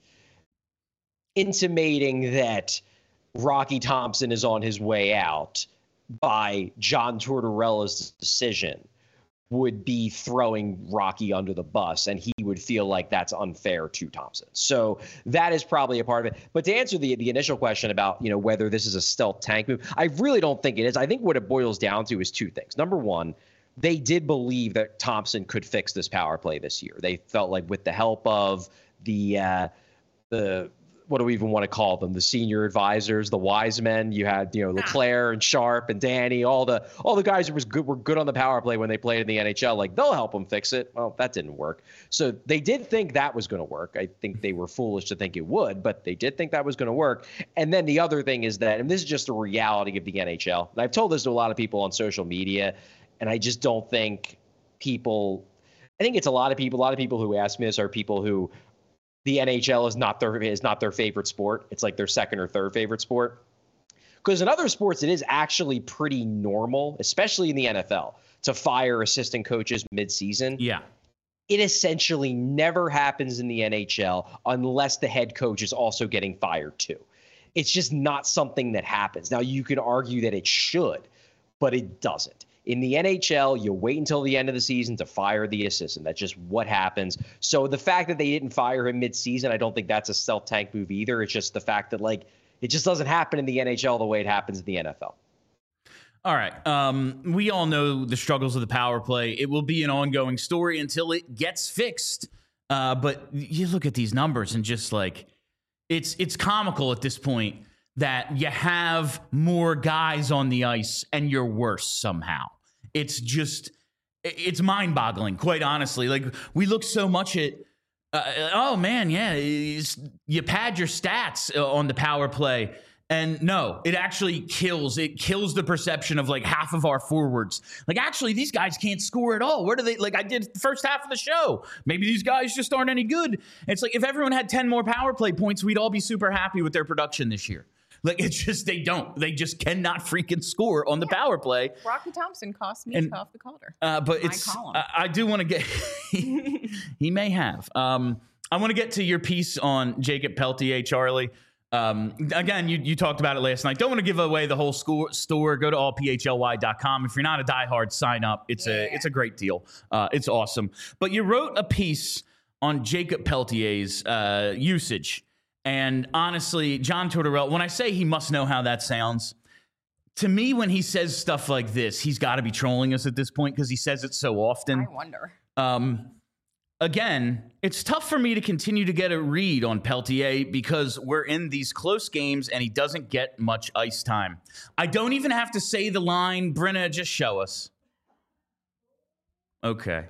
intimating that Rocky Thompson is on his way out by John Tortorella's decision would be throwing Rocky under the bus, and he would feel like that's unfair to Thompson. So that is probably a part of it. But to answer the initial question about, you know, whether this is a stealth tank move, I really don't think it is. I think what it boils down to is two things. Number one, they did believe that Thompson could fix this power play this year. They felt like with the help of the what do we even want to call them? The senior advisors, the wise men. You had, you know, LeClaire and Sharp and Danny, all the guys who were good on the power play when they played in the NHL. Like, they'll help them fix it. Well, that didn't work. So they did think that was going to work. I think they were foolish to think it would, but they did think that was going to work. And then the other thing is that, and this is just the reality of the NHL, and I've told this to a lot of people on social media, and I just don't think people, I think it's a lot of people who ask me this are people who, the NHL is not their favorite sport. It's like their second or third favorite sport. Because in other sports, it is actually pretty normal, especially in the NFL, to fire assistant coaches mid-season. Yeah. It essentially never happens in the NHL unless the head coach is also getting fired too. It's just not something that happens. Now, you can argue that it should, but it doesn't. In the NHL, you wait until the end of the season to fire the assistant. That's just what happens. So the fact that they didn't fire him mid-season, I don't think that's a stealth tank move either. It's just the fact that, like, it just doesn't happen in the NHL the way it happens in the NFL. All right. We all know the struggles of the power play. It will be an ongoing story until it gets fixed. But you look at these numbers and just, like, it's comical at this point that you have more guys on the ice and you're worse somehow. It's mind-boggling, quite honestly. Like, we look so much at Oh man, yeah. You pad your stats on the power play. And no, it actually kills. It kills the perception of like half of our forwards. Like, actually, these guys can't score at all. Where do they, like I did the first half of the show. Maybe these guys just aren't any good. And it's like, if everyone had 10 more power play points, we'd all be super happy with their production this year. Like, it's just, they don't. They just cannot freaking score on the power play. Rocky Thompson cost me off the Calder. But I do want to get, he may have. I want to get to your piece on Jacob Peltier, Charlie. Again, you talked about it last night. Don't want to give away the whole store. Go to allphly.com. If you're not a diehard, sign up. It's a great deal. It's awesome. But you wrote a piece on Jacob Peltier's usage. And honestly, John Tortorella, when I say he must know how that sounds, to me, when he says stuff like this, he's got to be trolling us at this point because he says it so often. I wonder. Again, it's tough for me to continue to get a read on Peltier because we're in these close games and he doesn't get much ice time. I don't even have to say the line, Brenna, just show us. Okay.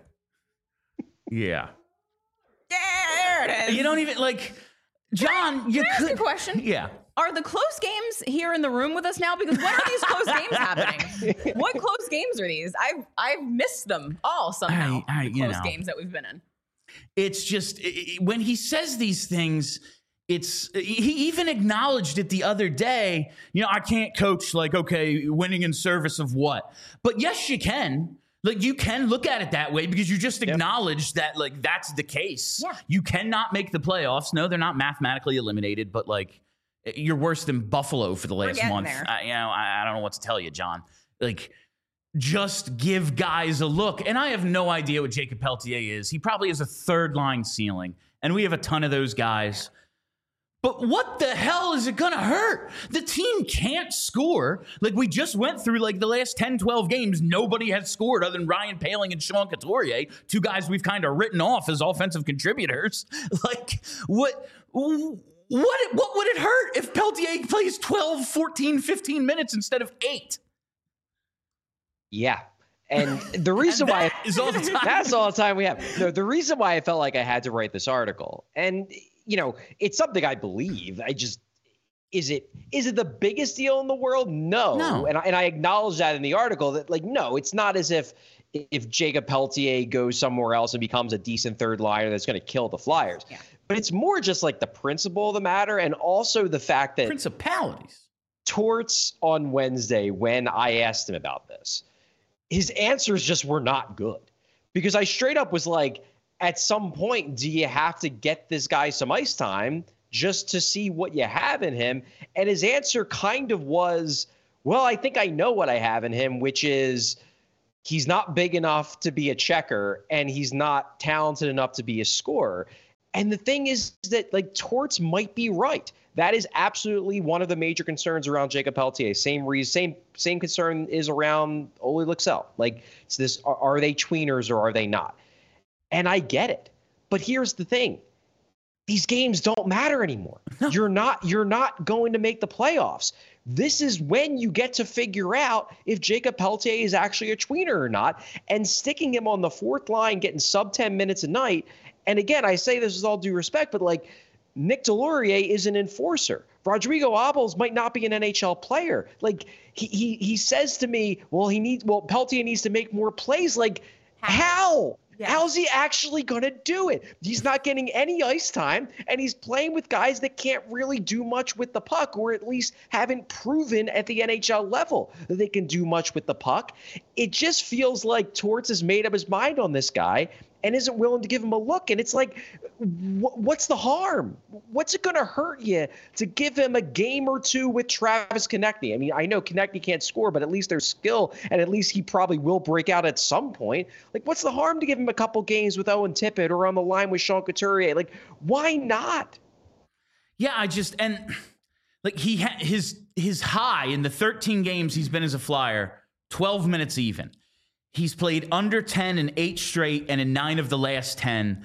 Yeah. Yeah, there it is. You don't even, like, John, you Can I ask could. a question? Yeah. Are the close games here in the room with us now? Because when are these close games happening? What close games are these? I've missed them all somehow. The close games that we've been in. It's just when he says these things, he even acknowledged it the other day. You know, I can't coach, like, okay, winning in service of what? But yes, you can. Like, you can look at it that way because you just acknowledged that, like, that's the case. Yeah. You cannot make the playoffs. No, they're not mathematically eliminated, but, like, you're worse than Buffalo for the last month. I don't know what to tell you, John. Like, just give guys a look. And I have no idea what Jacob Peltier is. He probably has a third line ceiling, and we have a ton of those guys. But what the hell is it going to hurt? The team can't score. Like, we just went through, like, the last 10, 12 games. Nobody has scored other than Ryan Poehling and Sean Couturier, two guys we've kind of written off as offensive contributors. Like, what would it hurt if Peltier plays 12, 14, 15 minutes instead of 8? Yeah. And the reason why is all the time. That's all the time we have. No, the reason why I felt like I had to write this article, and you know, it's something I believe. Is it the biggest deal in the world? No. And I acknowledge that in the article that, like, no, it's not as if Jacob Peltier goes somewhere else and becomes a decent third liner that's going to kill the Flyers. Yeah. But it's more just like the principle of the matter, and also the fact that principalities. Torts on Wednesday, when I asked him about this, his answers just were not good, because I straight up was like, at some point, do you have to get this guy some ice time just to see what you have in him? And his answer kind of was, well, I think I know what I have in him, which is he's not big enough to be a checker and he's not talented enough to be a scorer. And the thing is that, like, Torts might be right. That is absolutely one of the major concerns around Jacob Peltier. Same concern is around Ole Lycksell. Like, it's this: are they tweeners or are they not? And I get it, but here's the thing: these games don't matter anymore. You're not going to make the playoffs. This is when you get to figure out if Jacob Peltier is actually a tweener or not. And sticking him on the fourth line, getting sub 10 minutes a night. And again, I say this with all due respect, but, like, Nick Delorier is an enforcer. Rodrigo Abels might not be an NHL player. Like, he says to me, Peltier needs to make more plays. Like, how? Yeah. How's he actually going to do it? He's not getting any ice time, and he's playing with guys that can't really do much with the puck, or at least haven't proven at the NHL level that they can do much with the puck. It just feels like Torts has made up his mind on this guy and isn't willing to give him a look. And it's like, what's the harm? What's it going to hurt you to give him a game or two with Travis Konecny? I mean, I know Konecny can't score, but at least there's skill, and at least he probably will break out at some point. Like, what's the harm to give him a couple games with Owen Tippett or on the line with Sean Couturier? Like, why not? Yeah, his high in the 13 games he's been as a Flyer, 12 minutes even. He's played under 10 in 8 straight and in 9 of the last 10.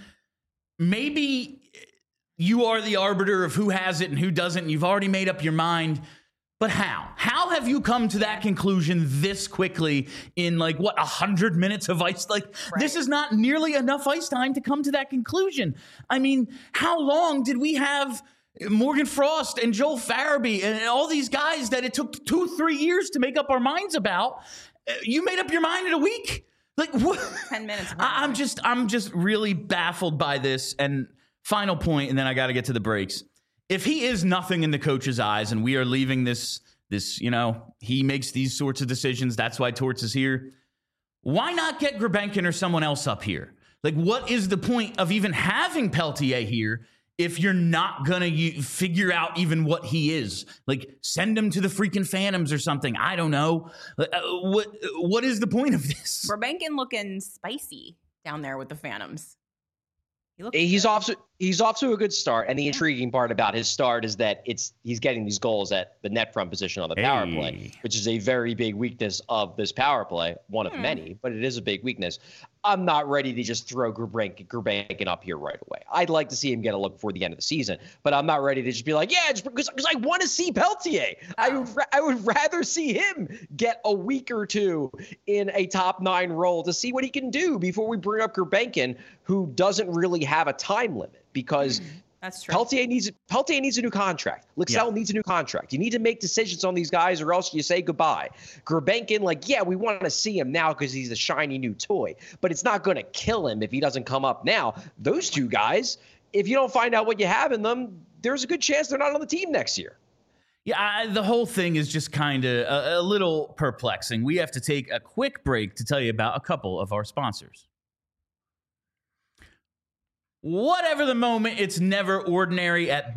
Maybe you are the arbiter of who has it and who doesn't. And you've already made up your mind. But how? How have you come to that conclusion this quickly in 100 minutes of ice? This is not nearly enough ice time to come to that conclusion. I mean, how long did we have Morgan Frost and Joel Farabee and all these guys that it took 2-3 years to make up our minds about? You made up your mind in a week? What? 10 minutes. I'm just really baffled by this. And final point, and then I got to get to the breaks. If he is nothing in the coach's eyes and we are leaving this, he makes these sorts of decisions. That's why Torts is here. Why not get Gulbenkian or someone else up here? What is the point of even having Peltier here if you're not going to figure out even what he is? Send him to the freaking Phantoms or something. I don't know. What is the point of this? Gulbenkian looking spicy down there with the Phantoms. He's off to a good start, and the intriguing part about his start is that he's getting these goals at the net front position on the power play, which is a very big weakness of this power play, one of many, but it is a big weakness. I'm not ready to just throw Gulbenkian up here right away. I'd like to see him get a look before the end of the season, but I'm not ready to just be like, yeah, just because I want to see Peltier. I would rather see him get a week or two in a top 9 role to see what he can do before we bring up Gulbenkian, who doesn't really have a time limit, because that's true. Peltier needs a new contract. Lixell needs a new contract. You need to make decisions on these guys, or else you say goodbye. Gulbenkian, we want to see him now because he's a shiny new toy, but it's not going to kill him if he doesn't come up now. Those two guys, if you don't find out what you have in them, there's a good chance they're not on the team next year. Yeah, the whole thing is just kind of a little perplexing. We have to take a quick break to tell you about a couple of our sponsors. Whatever the moment, it's never ordinary at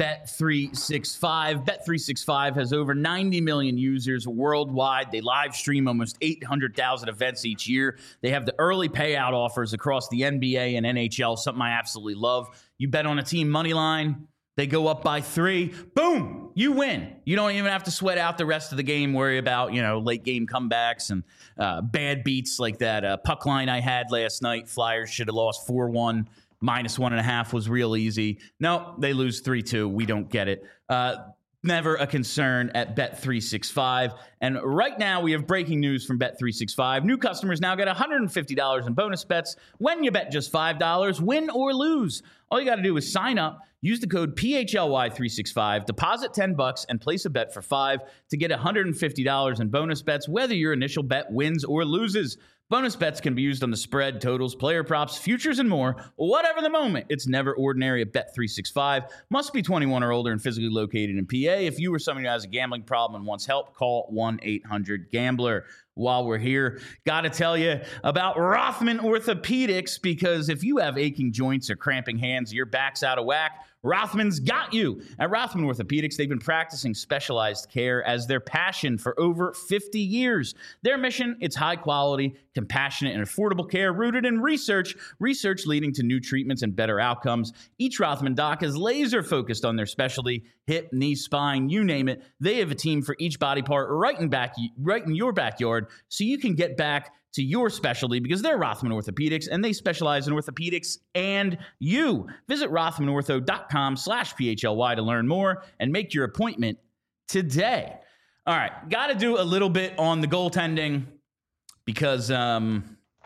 Bet365. Bet365 has over 90 million users worldwide. They live stream almost 800,000 events each year. They have the early payout offers across the NBA and NHL, something I absolutely love. You bet on a team money line, they go up by 3, boom, you win. You don't even have to sweat out the rest of the game, worry about, late game comebacks and bad beats like that puck line I had last night. Flyers should have lost 4-1. -1.5 was real easy. No, they lose 3-2. We don't get it. Never a concern at Bet365. And right now we have breaking news from Bet365. New customers now get $150 in bonus bets when you bet just $5, win or lose. All you got to do is sign up, use the code PHLY365, deposit $10 and place a bet for $5 to get $150 in bonus bets, whether your initial bet wins or loses. Bonus bets can be used on the spread, totals, player props, futures, and more. Whatever the moment, it's never ordinary at Bet365. Must be 21 or older and physically located in PA. If you or someone who has a gambling problem and wants help, call 1-800-GAMBLER. While we're here, got to tell you about Rothman Orthopedics, because if you have aching joints or cramping hands, your back's out of whack, Rothman's got you. At Rothman Orthopedics, they've been practicing specialized care as their passion for over 50 years. Their mission, it's high quality, compassionate, and affordable care rooted in research leading to new treatments and better outcomes. Each Rothman doc is laser focused on their specialty, hip, knee, spine, you name it. They have a team for each body part right in your backyard, so you can get back to your specialty, because they're Rothman Orthopedics and they specialize in orthopedics and you. Visit rothmanortho.com/PHLY to learn more and make your appointment today. All right, got to do a little bit on the goaltending because I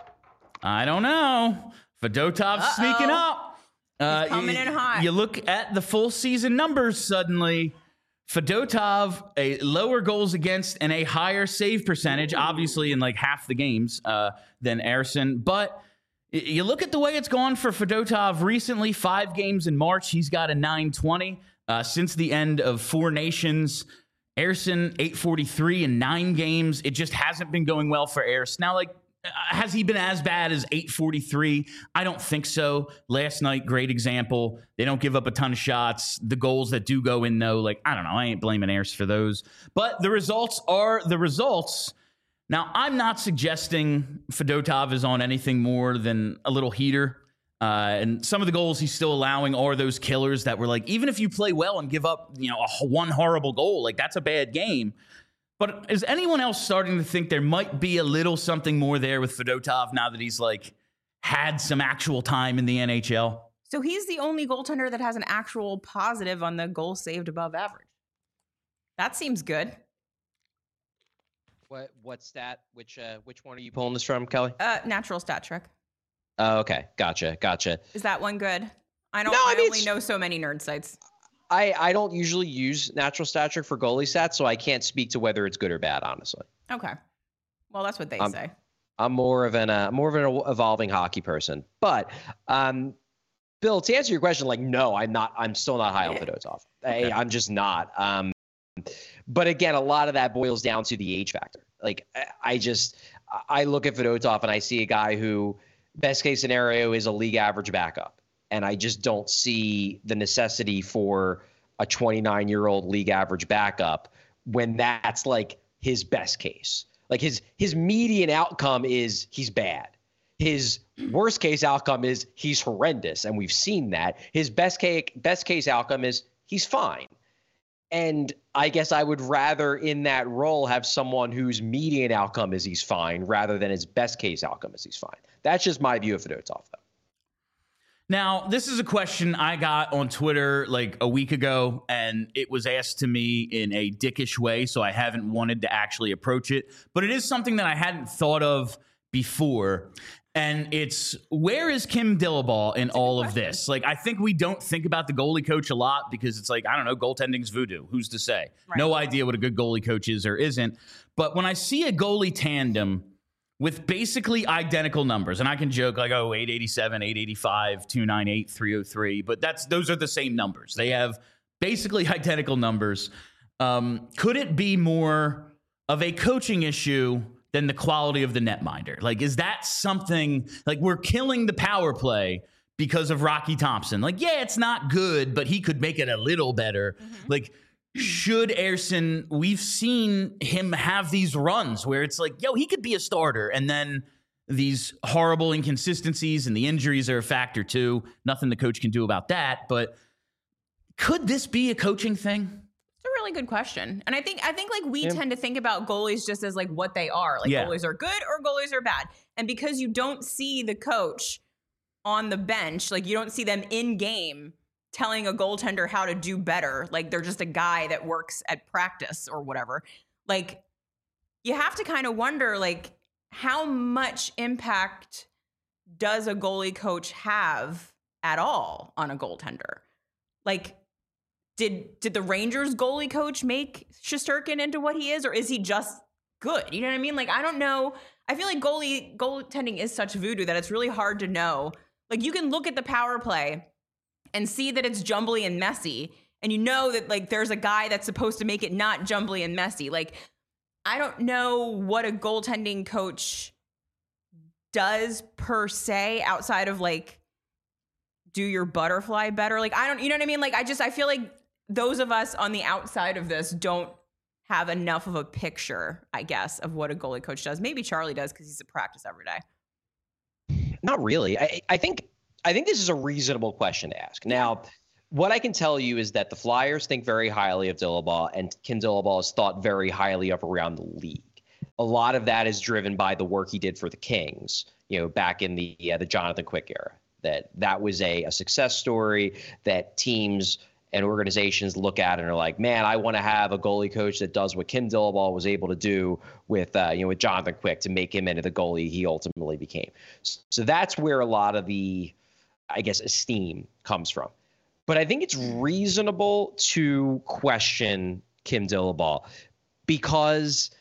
don't know. Fedotov's sneaking up. He's coming in hot. You look at the full season numbers suddenly. Fedotov, a lower goals against and a higher save percentage, obviously in half the games than Ersson. But you look at the way it's gone for Fedotov recently, 5 games in March, he's got a .920. Since the end of 4 Nations, Ersson, .843 in 9 games. It just hasn't been going well for Ersson. Now, has he been as bad as .843? I don't think so. Last night, great example. They don't give up a ton of shots. The goals that do go in, though, I don't know. I ain't blaming Ayers for those. But the results are the results. Now, I'm not suggesting Fedotov is on anything more than a little heater. And some of the goals he's still allowing are those killers that were even if you play well and give up, one horrible goal, that's a bad game. But is anyone else starting to think there might be a little something more there with Fedotov now that he's had some actual time in the NHL? So he's the only goaltender that has an actual positive on the goal saved above average. That seems good. What stat? Which one are you pulling this from, Kelly? Natural stat trick. Oh, okay. Gotcha. Is that one good? I don't. No, I mean, I only know so many nerd sites. I don't usually use natural stat trick for goalie stats, so I can't speak to whether it's good or bad, honestly. Okay. Well, that's what they say. I'm more of an evolving hockey person. But Bill, to answer your question, like, no, I'm not. I'm still not high on Fedotov. Okay. I'm just not. But again, a lot of that boils down to the age factor. Like, I look at Fedotov and I see a guy who, best case scenario, is a league average backup. And I just don't see the necessity for a 29-year-old league average backup when that's like his best case. Like his median outcome is he's bad. His worst case outcome is he's horrendous, and we've seen that. His best case outcome is he's fine. And I guess I would rather in that role have someone whose median outcome is he's fine rather than his best case outcome is he's fine. That's just my view of Fedotov, though. Now, this is a question I got on Twitter like a week ago, and it was asked to me in a dickish way, so I haven't wanted to actually approach it. But it is something that I hadn't thought of before, and it's, where is Kim Dillabaugh in all of this? Like, I think we don't think about the goalie coach a lot because it's like, I don't know, goaltending's voodoo. Who's to say? Right. No idea what a good goalie coach is or isn't. But when I see a goalie tandem with basically identical numbers, and I can joke like, oh, 887, 885, 298, 303, but those are the same numbers. They have basically identical numbers. Could it be more of a coaching issue than the quality of the netminder? Like, is that something, like, we're killing the power play because of Rocky Thompson? Like, yeah, it's not good, but he could make it a little better. Mm-hmm. Like, should Ersson, we've seen him have these runs where it's like, yo, he could be a starter. And then these horrible inconsistencies and the injuries are a factor too. Nothing the coach can do about that. But could this be a coaching thing? It's a really good question. And I think like we tend to think about goalies just as like what they are. Like goalies are good or goalies are bad. And because you don't see the coach on the bench, like you don't see them in game telling a goaltender how to do better. Like they're just a guy that works at practice or whatever. Like you have to kind of wonder, like, how much impact does a goalie coach have at all on a goaltender? Like, did the Rangers goalie coach make Shesterkin into what he is, or is he just good? You know what I mean? Like, I don't know. I feel like goaltending is such voodoo that it's really hard to know. Like, you can look at the power play and see that it's jumbly and messy, and you know that like there's a guy that's supposed to make it not jumbly and messy. Like, I don't know what a goaltending coach does per se outside of like do your butterfly better. Like, you know what I mean? Like, I feel like those of us on the outside of this don't have enough of a picture, I guess, of what a goalie coach does. Maybe Charlie does because he's at practice every day. Not really. I think this is a reasonable question to ask. Now, what I can tell you is that the Flyers think very highly of Dillabaugh, and Kim Dillabaugh is thought very highly of around the league. A lot of that is driven by the work he did for the Kings, back in the Jonathan Quick era. That was a success story that teams and organizations look at and are like, man, I want to have a goalie coach that does what Kim Dillabaugh was able to do with Jonathan Quick to make him into the goalie he ultimately became. So that's where a lot of the, I guess, esteem comes from. But I think it's reasonable to question Kim Dillabaugh because,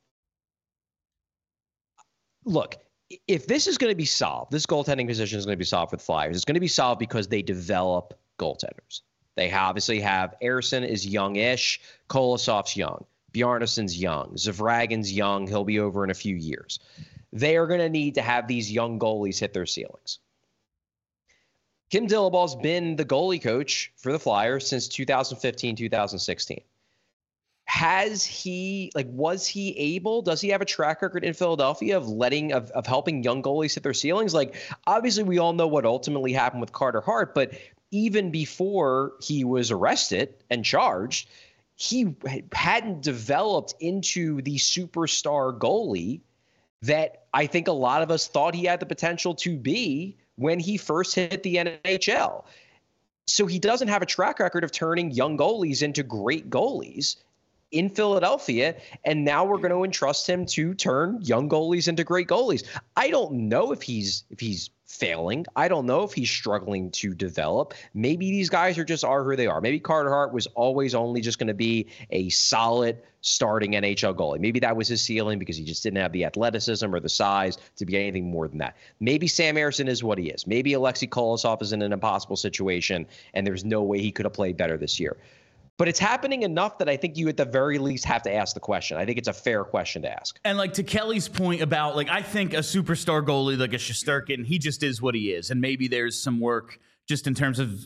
look, if this is going to be solved, this goaltending position is going to be solved for the Flyers. It's going to be solved because they develop goaltenders. They obviously have Ersson is young-ish, Kolosov's young, Bjarnason's young, Zavragin's young. He'll be over in a few years. They are going to need to have these young goalies hit their ceilings. Kim Dillabaugh's been the goalie coach for the Flyers since 2015, 2016. Was he able, does he have a track record in Philadelphia of helping young goalies hit their ceilings? Like, obviously we all know what ultimately happened with Carter Hart, but even before he was arrested and charged, he hadn't developed into the superstar goalie that I think a lot of us thought he had the potential to be when he first hit the NHL. So he doesn't have a track record of turning young goalies into great goalies. in Philadelphia, and now we're going to entrust him to turn young goalies into great goalies. I don't know if he's failing. I don't know if he's struggling to develop. Maybe these guys are who they are. Maybe Carter Hart was always only just going to be a solid starting NHL goalie. Maybe that was his ceiling because he just didn't have the athleticism or the size to be anything more than that. Maybe Sam Ersson is what he is. Maybe Alexei Kolosov is in an impossible situation and there's no way he could have played better this year. But it's happening enough that I think you at the very least have to ask the question. I think it's a fair question to ask. And like to Kelly's point about I think a superstar goalie like a Shesterkin, he just is what he is. And maybe there's some work just in terms of,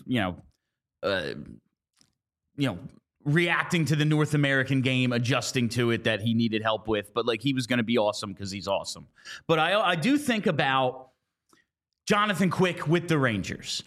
reacting to the North American game, adjusting to it that he needed help with. But he was going to be awesome because he's awesome. But I do think about Jonathan Quick with the Rangers.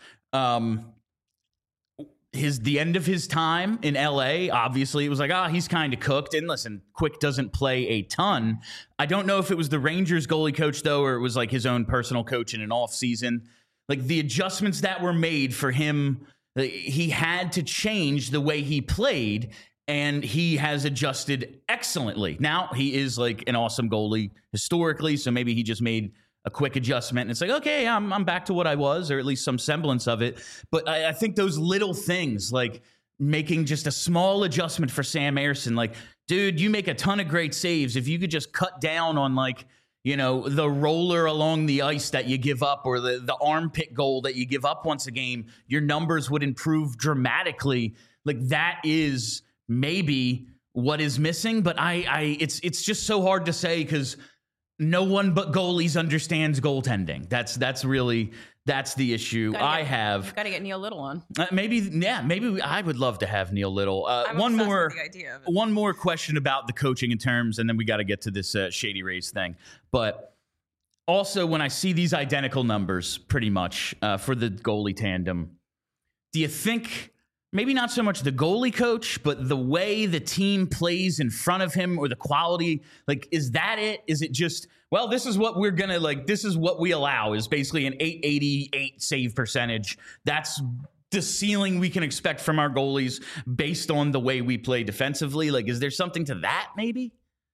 The end of his time in LA, obviously, it was he's kind of cooked. And listen, Quick doesn't play a ton. I don't know if it was the Rangers goalie coach, though, or it was his own personal coach in an offseason. The adjustments that were made for him, he had to change the way he played, and he has adjusted excellently. Now, he is an awesome goalie historically, so maybe he just made a quick adjustment. And it's okay, I'm back to what I was, or at least some semblance of it. But I think those little things, making just a small adjustment for Sam Ersson, dude, you make a ton of great saves. If you could just cut down on the roller along the ice that you give up, or the armpit goal that you give up once a game, your numbers would improve dramatically. That is maybe what is missing. But it's just so hard to say because no one but goalies understands goaltending. That's the issue I have. Got to get Neil Little on. Maybe I would love to have Neil Little. One more question about the coaching in terms, and then we got to get to this Shady Rays thing. But also, when I see these identical numbers, pretty much for the goalie tandem, do you think? Maybe not so much the goalie coach, but the way the team plays in front of him, or the quality, is that it? Is it just, this is what we're going to, this is what we allow, is basically an 888 save percentage. That's the ceiling we can expect from our goalies based on the way we play defensively. Is there something to that maybe?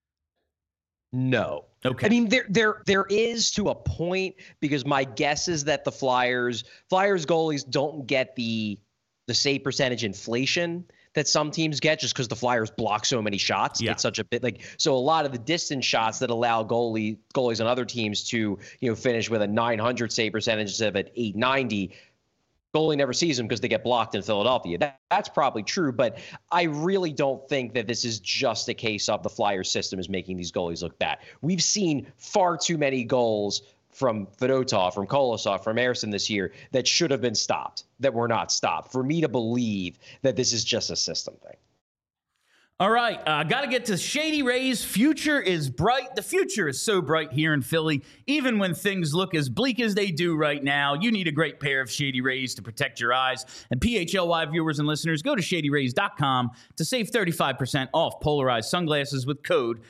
No. Okay. I mean, there is to a point, because my guess is that the Flyers goalies don't get the save percentage inflation that some teams get just because the Flyers block so many shots. Yeah. It's such a bit so a lot of the distance shots that allow goalies on other teams to, finish with a 900 save percentage instead of an 890. Goalie never sees them because they get blocked in Philadelphia. That's probably true, but I really don't think that this is just a case of the Flyers system is making these goalies look bad. We've seen far too many goals from Fedotov, from Kolosov, from Ersson this year that should have been stopped, that were not stopped, for me to believe that this is just a system thing. All right, got to get to Shady Rays. Future is bright. The future is so bright here in Philly. Even when things look as bleak as they do right now, you need a great pair of Shady Rays to protect your eyes. And PHLY viewers and listeners, go to shadyrays.com to save 35% off polarized sunglasses with code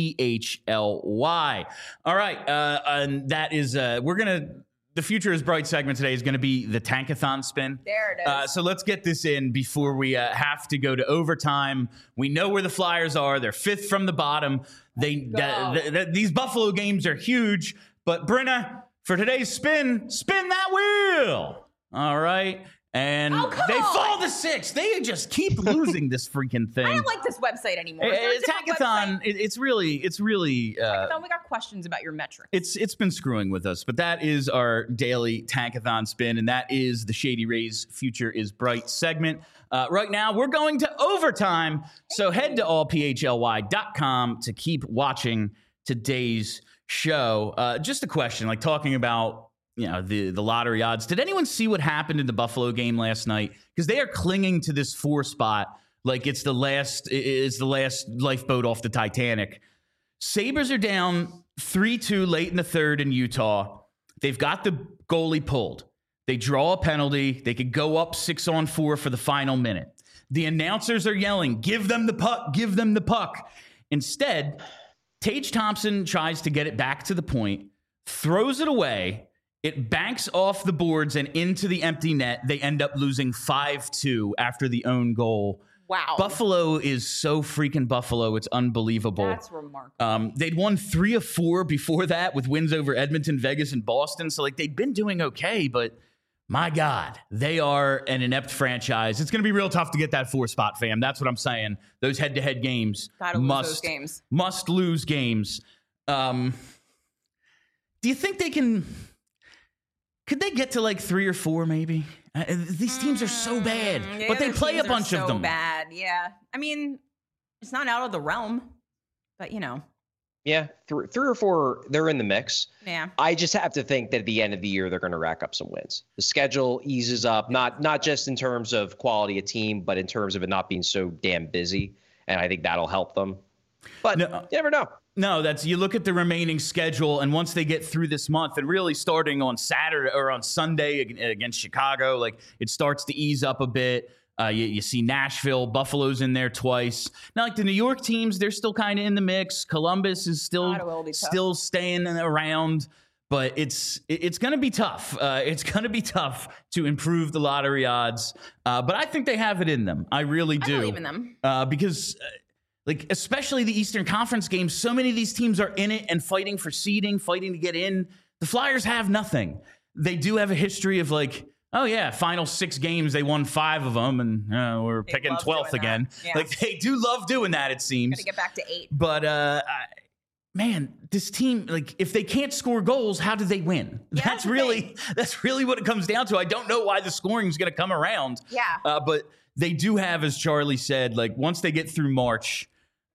PHLY. All right, and that is, the Future is Bright segment today is going to be the Tankathon spin. There it is. So let's get this in before we have to go to overtime. We know where the Flyers are. They're fifth from the bottom. These Buffalo games are huge. But Brenna, for today's spin that wheel. All right. And they fall to six. They just keep losing this freaking thing. I don't like this website anymore. Tankathon, it's really. Tankathon, we got questions about your metrics. It's been screwing with us, but that is our daily Tankathon spin, and that is the Shady Rays Future is Bright segment. Right now, we're going to overtime, so head to allphly.com to keep watching today's show. Just a question, talking about the lottery odds. Did anyone see what happened in the Buffalo game last night? Because they are clinging to this 4 spot like it's the last lifeboat off the Titanic. Sabres are down 3-2 late in the third in Utah. They've got the goalie pulled. They draw a penalty. They could go up 6-on-4 for the final minute. The announcers are yelling, "Give them the puck, give them the puck." Instead, Tage Thompson tries to get it back to the point, throws it away. It banks off the boards and into the empty net. They end up losing 5-2 after the own goal Wow. Buffalo is so freaking Buffalo. It's unbelievable. That's remarkable. They'd won 3 of 4 before that with wins over Edmonton, Vegas, and Boston. So, like, they've been doing okay, but my God, they are an inept franchise. It's going to be real tough to get that 4 spot, fam. That's what I'm saying. Those head-to-head games must lose games. Do you think they can? Could they get to like 3 or 4 maybe? These teams are so bad, but they play a bunch of them. Bad, yeah. I mean, it's not out of the realm, but Yeah, 3 or 4, they're in the mix. Yeah. I just have to think that at the end of the year, they're going to rack up some wins. The schedule eases up, not just in terms of quality of team, but in terms of it not being so damn busy. And I think that'll help them. But you never know. No, you look at the remaining schedule, and once they get through this month, and really starting on Saturday or on Sunday against Chicago, like it starts to ease up a bit. You see Nashville, Buffalo's in there twice. Now, like the New York teams, they're still kind of in the mix. Columbus is still staying around, but it's going to be tough. It's going to be tough to improve the lottery odds, but I think they have it in them. I really do. I believe in them because. Like, especially the Eastern Conference games, so many of these teams are in it and fighting for seeding, fighting to get in. The Flyers have nothing. They do have a history of like, oh yeah, final 6 games, they won 5 of them, and we're picking 12th again. Yeah. Like, they do love doing that, it seems. Gotta get back to 8. But, man, this team, like, if they can't score goals, how do they win? Yeah, that's really what it comes down to. I don't know why the scoring is going to come around. Yeah. But they do have, as Charlie said, like, once they get through March,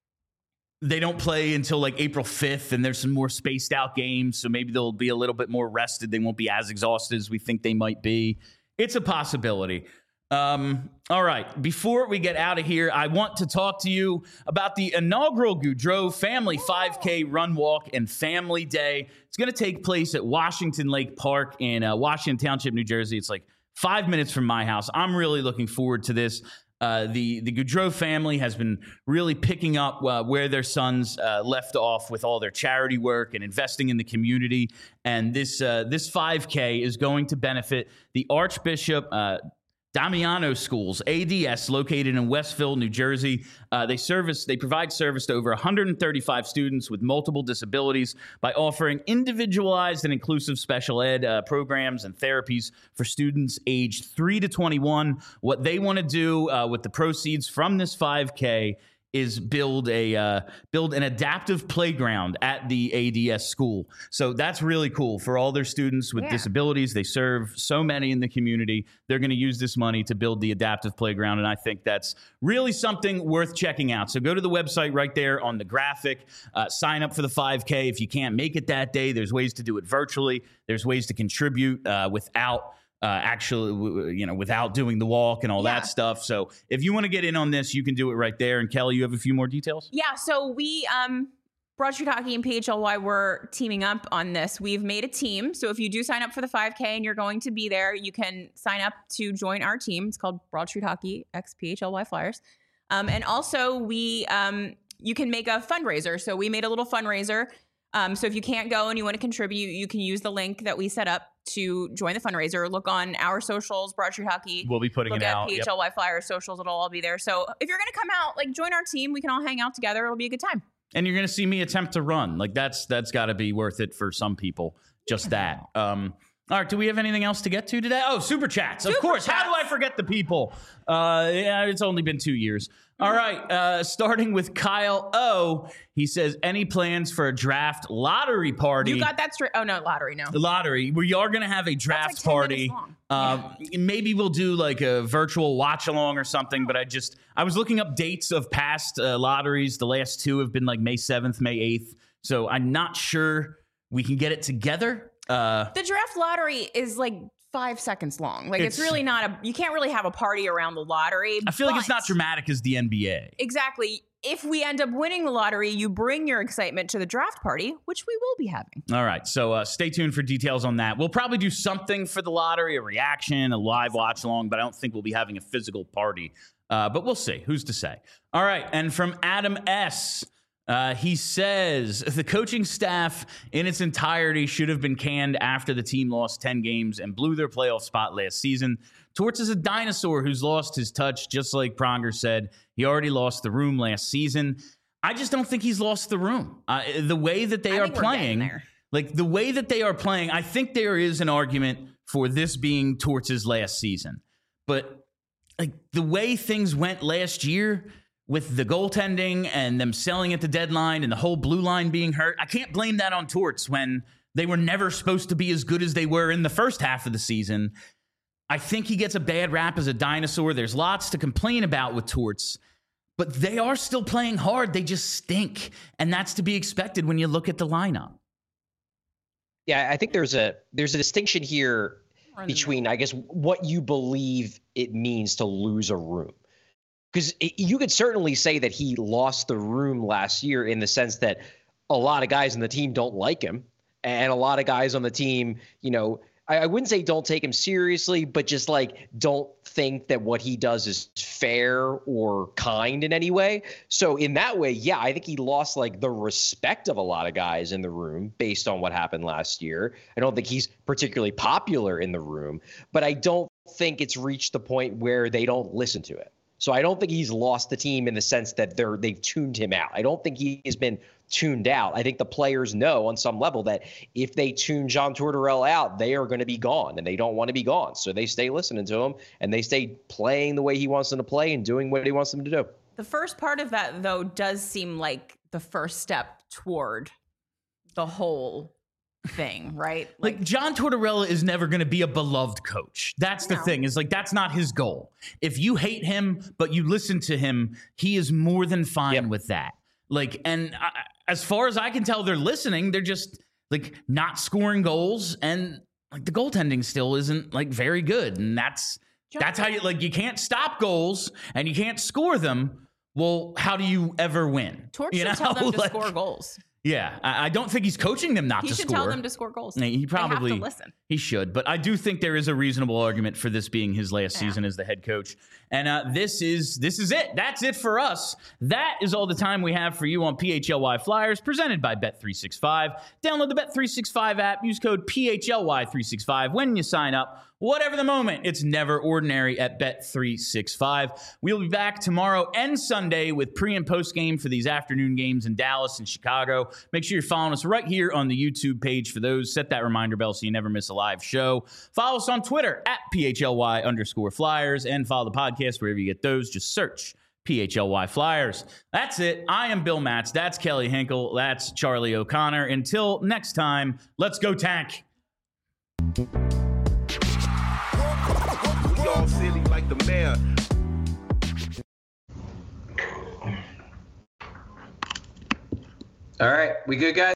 they don't play until like April 5th, and there's some more spaced out games, so maybe they'll be a little bit more rested. They won't be as exhausted as we think they might be. It's a possibility. All right, before we get out of here, I want to talk to you about the inaugural Goudreau Family 5K Run, Walk, and Family Day. It's going to take place at Washington Lake Park in Washington Township, New Jersey. It's like 5 minutes from my house. I'm really looking forward to this. The Goudreau family has been really picking up where their sons left off with all their charity work and investing in the community. And this 5K is going to benefit the Archbishop Damiano Schools, ADS, located in Westville, New Jersey. They provide service to over 135 students with multiple disabilities by offering individualized and inclusive special ed programs and therapies for students aged 3 to 21. What they want to do with the proceeds from this 5K is build an adaptive playground at the ADS school. So that's really cool for all their students with disabilities. They serve so many in the community. They're going to use this money to build the adaptive playground, and I think that's really something worth checking out. So go to the website right there on the graphic. Sign up for the 5K. If you can't make it that day, there's ways to do it virtually. There's ways to contribute without doing the walk and all that stuff. So if you want to get in on this, you can do it right there. And Kelly, you have a few more details? Yeah. So we, Broad Street Hockey and PHLY, we're teaming up on this. We've made a team. So if you do sign up for the 5K and you're going to be there, you can sign up to join our team. It's called Broad Street Hockey x PHLY Flyers. And also you can make a fundraiser. So we made a little fundraiser. So if you can't go and you want to contribute, you can use the link that we set up to join the fundraiser. Look on our socials, Broad Street Hockey. We'll be putting it out. Look at PHLY Flyers socials. It'll all be there. So if you're going to come out, like, join our team. We can all hang out together. It'll be a good time. And you're going to see me attempt to run. Like, that's got to be worth it for some people. Just that. All right. Do we have anything else to get to today? Oh, Super Chats. Of course. How do I forget the people? It's only been 2 years. All right. Starting with Kyle O. He says, any plans for a draft lottery party? You got that straight. Oh, no, lottery, no. The lottery. We are going to have a draft party. Maybe we'll do like a virtual watch along or something. But I was looking up dates of past lotteries. The last 2 have been like May 7th, May 8th. So I'm not sure we can get it together. The draft lottery is like 5 seconds long. Like, it's really not you can't really have a party around the lottery. I feel like it's not dramatic as the NBA. Exactly. If we end up winning the lottery, you bring your excitement to the draft party, which we will be having. All right. So stay tuned for details on that. We'll probably do something for the lottery, a reaction, a live watch along, but I don't think we'll be having a physical party. But we'll see. Who's to say? All right. And from Adam S., He says the coaching staff in its entirety should have been canned after the team lost 10 games and blew their playoff spot last season. Torts is a dinosaur who's lost his touch, just like Pronger said. He already lost the room last season. I just don't think he's lost the room. The way that they are playing, like the way that they are playing, I think there is an argument for this being Torts' last season. But like the way things went last year with the goaltending and them selling at the deadline and the whole blue line being hurt, I can't blame that on Torts when they were never supposed to be as good as they were in the first half of the season. I think he gets a bad rap as a dinosaur. There's lots to complain about with Torts, but they are still playing hard. They just stink, and that's to be expected when you look at the lineup. Yeah, I think there's a distinction here between, I guess, what you believe it means to lose a room. Because you could certainly say that he lost the room last year in the sense that a lot of guys on the team don't like him, and a lot of guys on the team, you know, I wouldn't say don't take him seriously, but just like don't think that what he does is fair or kind in any way. So in that way, yeah, I think he lost like the respect of a lot of guys in the room based on what happened last year. I don't think he's particularly popular in the room, but I don't think it's reached the point where they don't listen to it. So I don't think he's lost the team in the sense that they've tuned him out. I don't think he has been tuned out. I think the players know on some level that if they tune John Tortorella out, they are going to be gone, and they don't want to be gone. So they stay listening to him, and they stay playing the way he wants them to play and doing what he wants them to do. The first part of that, though, does seem like the first step toward the whole thing, right? Like John Tortorella is never going to be a beloved coach. That's the thing, is like that's not his goal. If you hate him but you listen to him, he is more than fine with that. Like, and as far as I can tell, they're listening. They're just like not scoring goals, and like the goaltending still isn't like very good. And that's how you like, you can't stop goals and you can't score them. Well, how do you ever win? Torch should tell them to score goals. Yeah, I don't think he's coaching them not to score. He should tell them to score goals. He probably have to listen. He should, but I do think there is a reasonable argument for this being his last season as the head coach. And this is it. That's it for us. That is all the time we have for you on PHLY Flyers, presented by Bet365. Download the Bet365 app. Use code PHLY365 when you sign up. Whatever the moment, it's never ordinary at Bet365. We'll be back tomorrow and Sunday with pre- and post-game for these afternoon games in Dallas and Chicago. Make sure you're following us right here on the YouTube page for those. Set that reminder bell so you never miss a live show. Follow us on Twitter at PHLY_Flyers and follow the podcast wherever you get those. Just search PHLY Flyers. That's it. I am Bill Matz. That's Kelly Hinkle. That's Charlie O'Connor. Until next time, let's go Tank. All silly like the mayor. All right, we good, guys?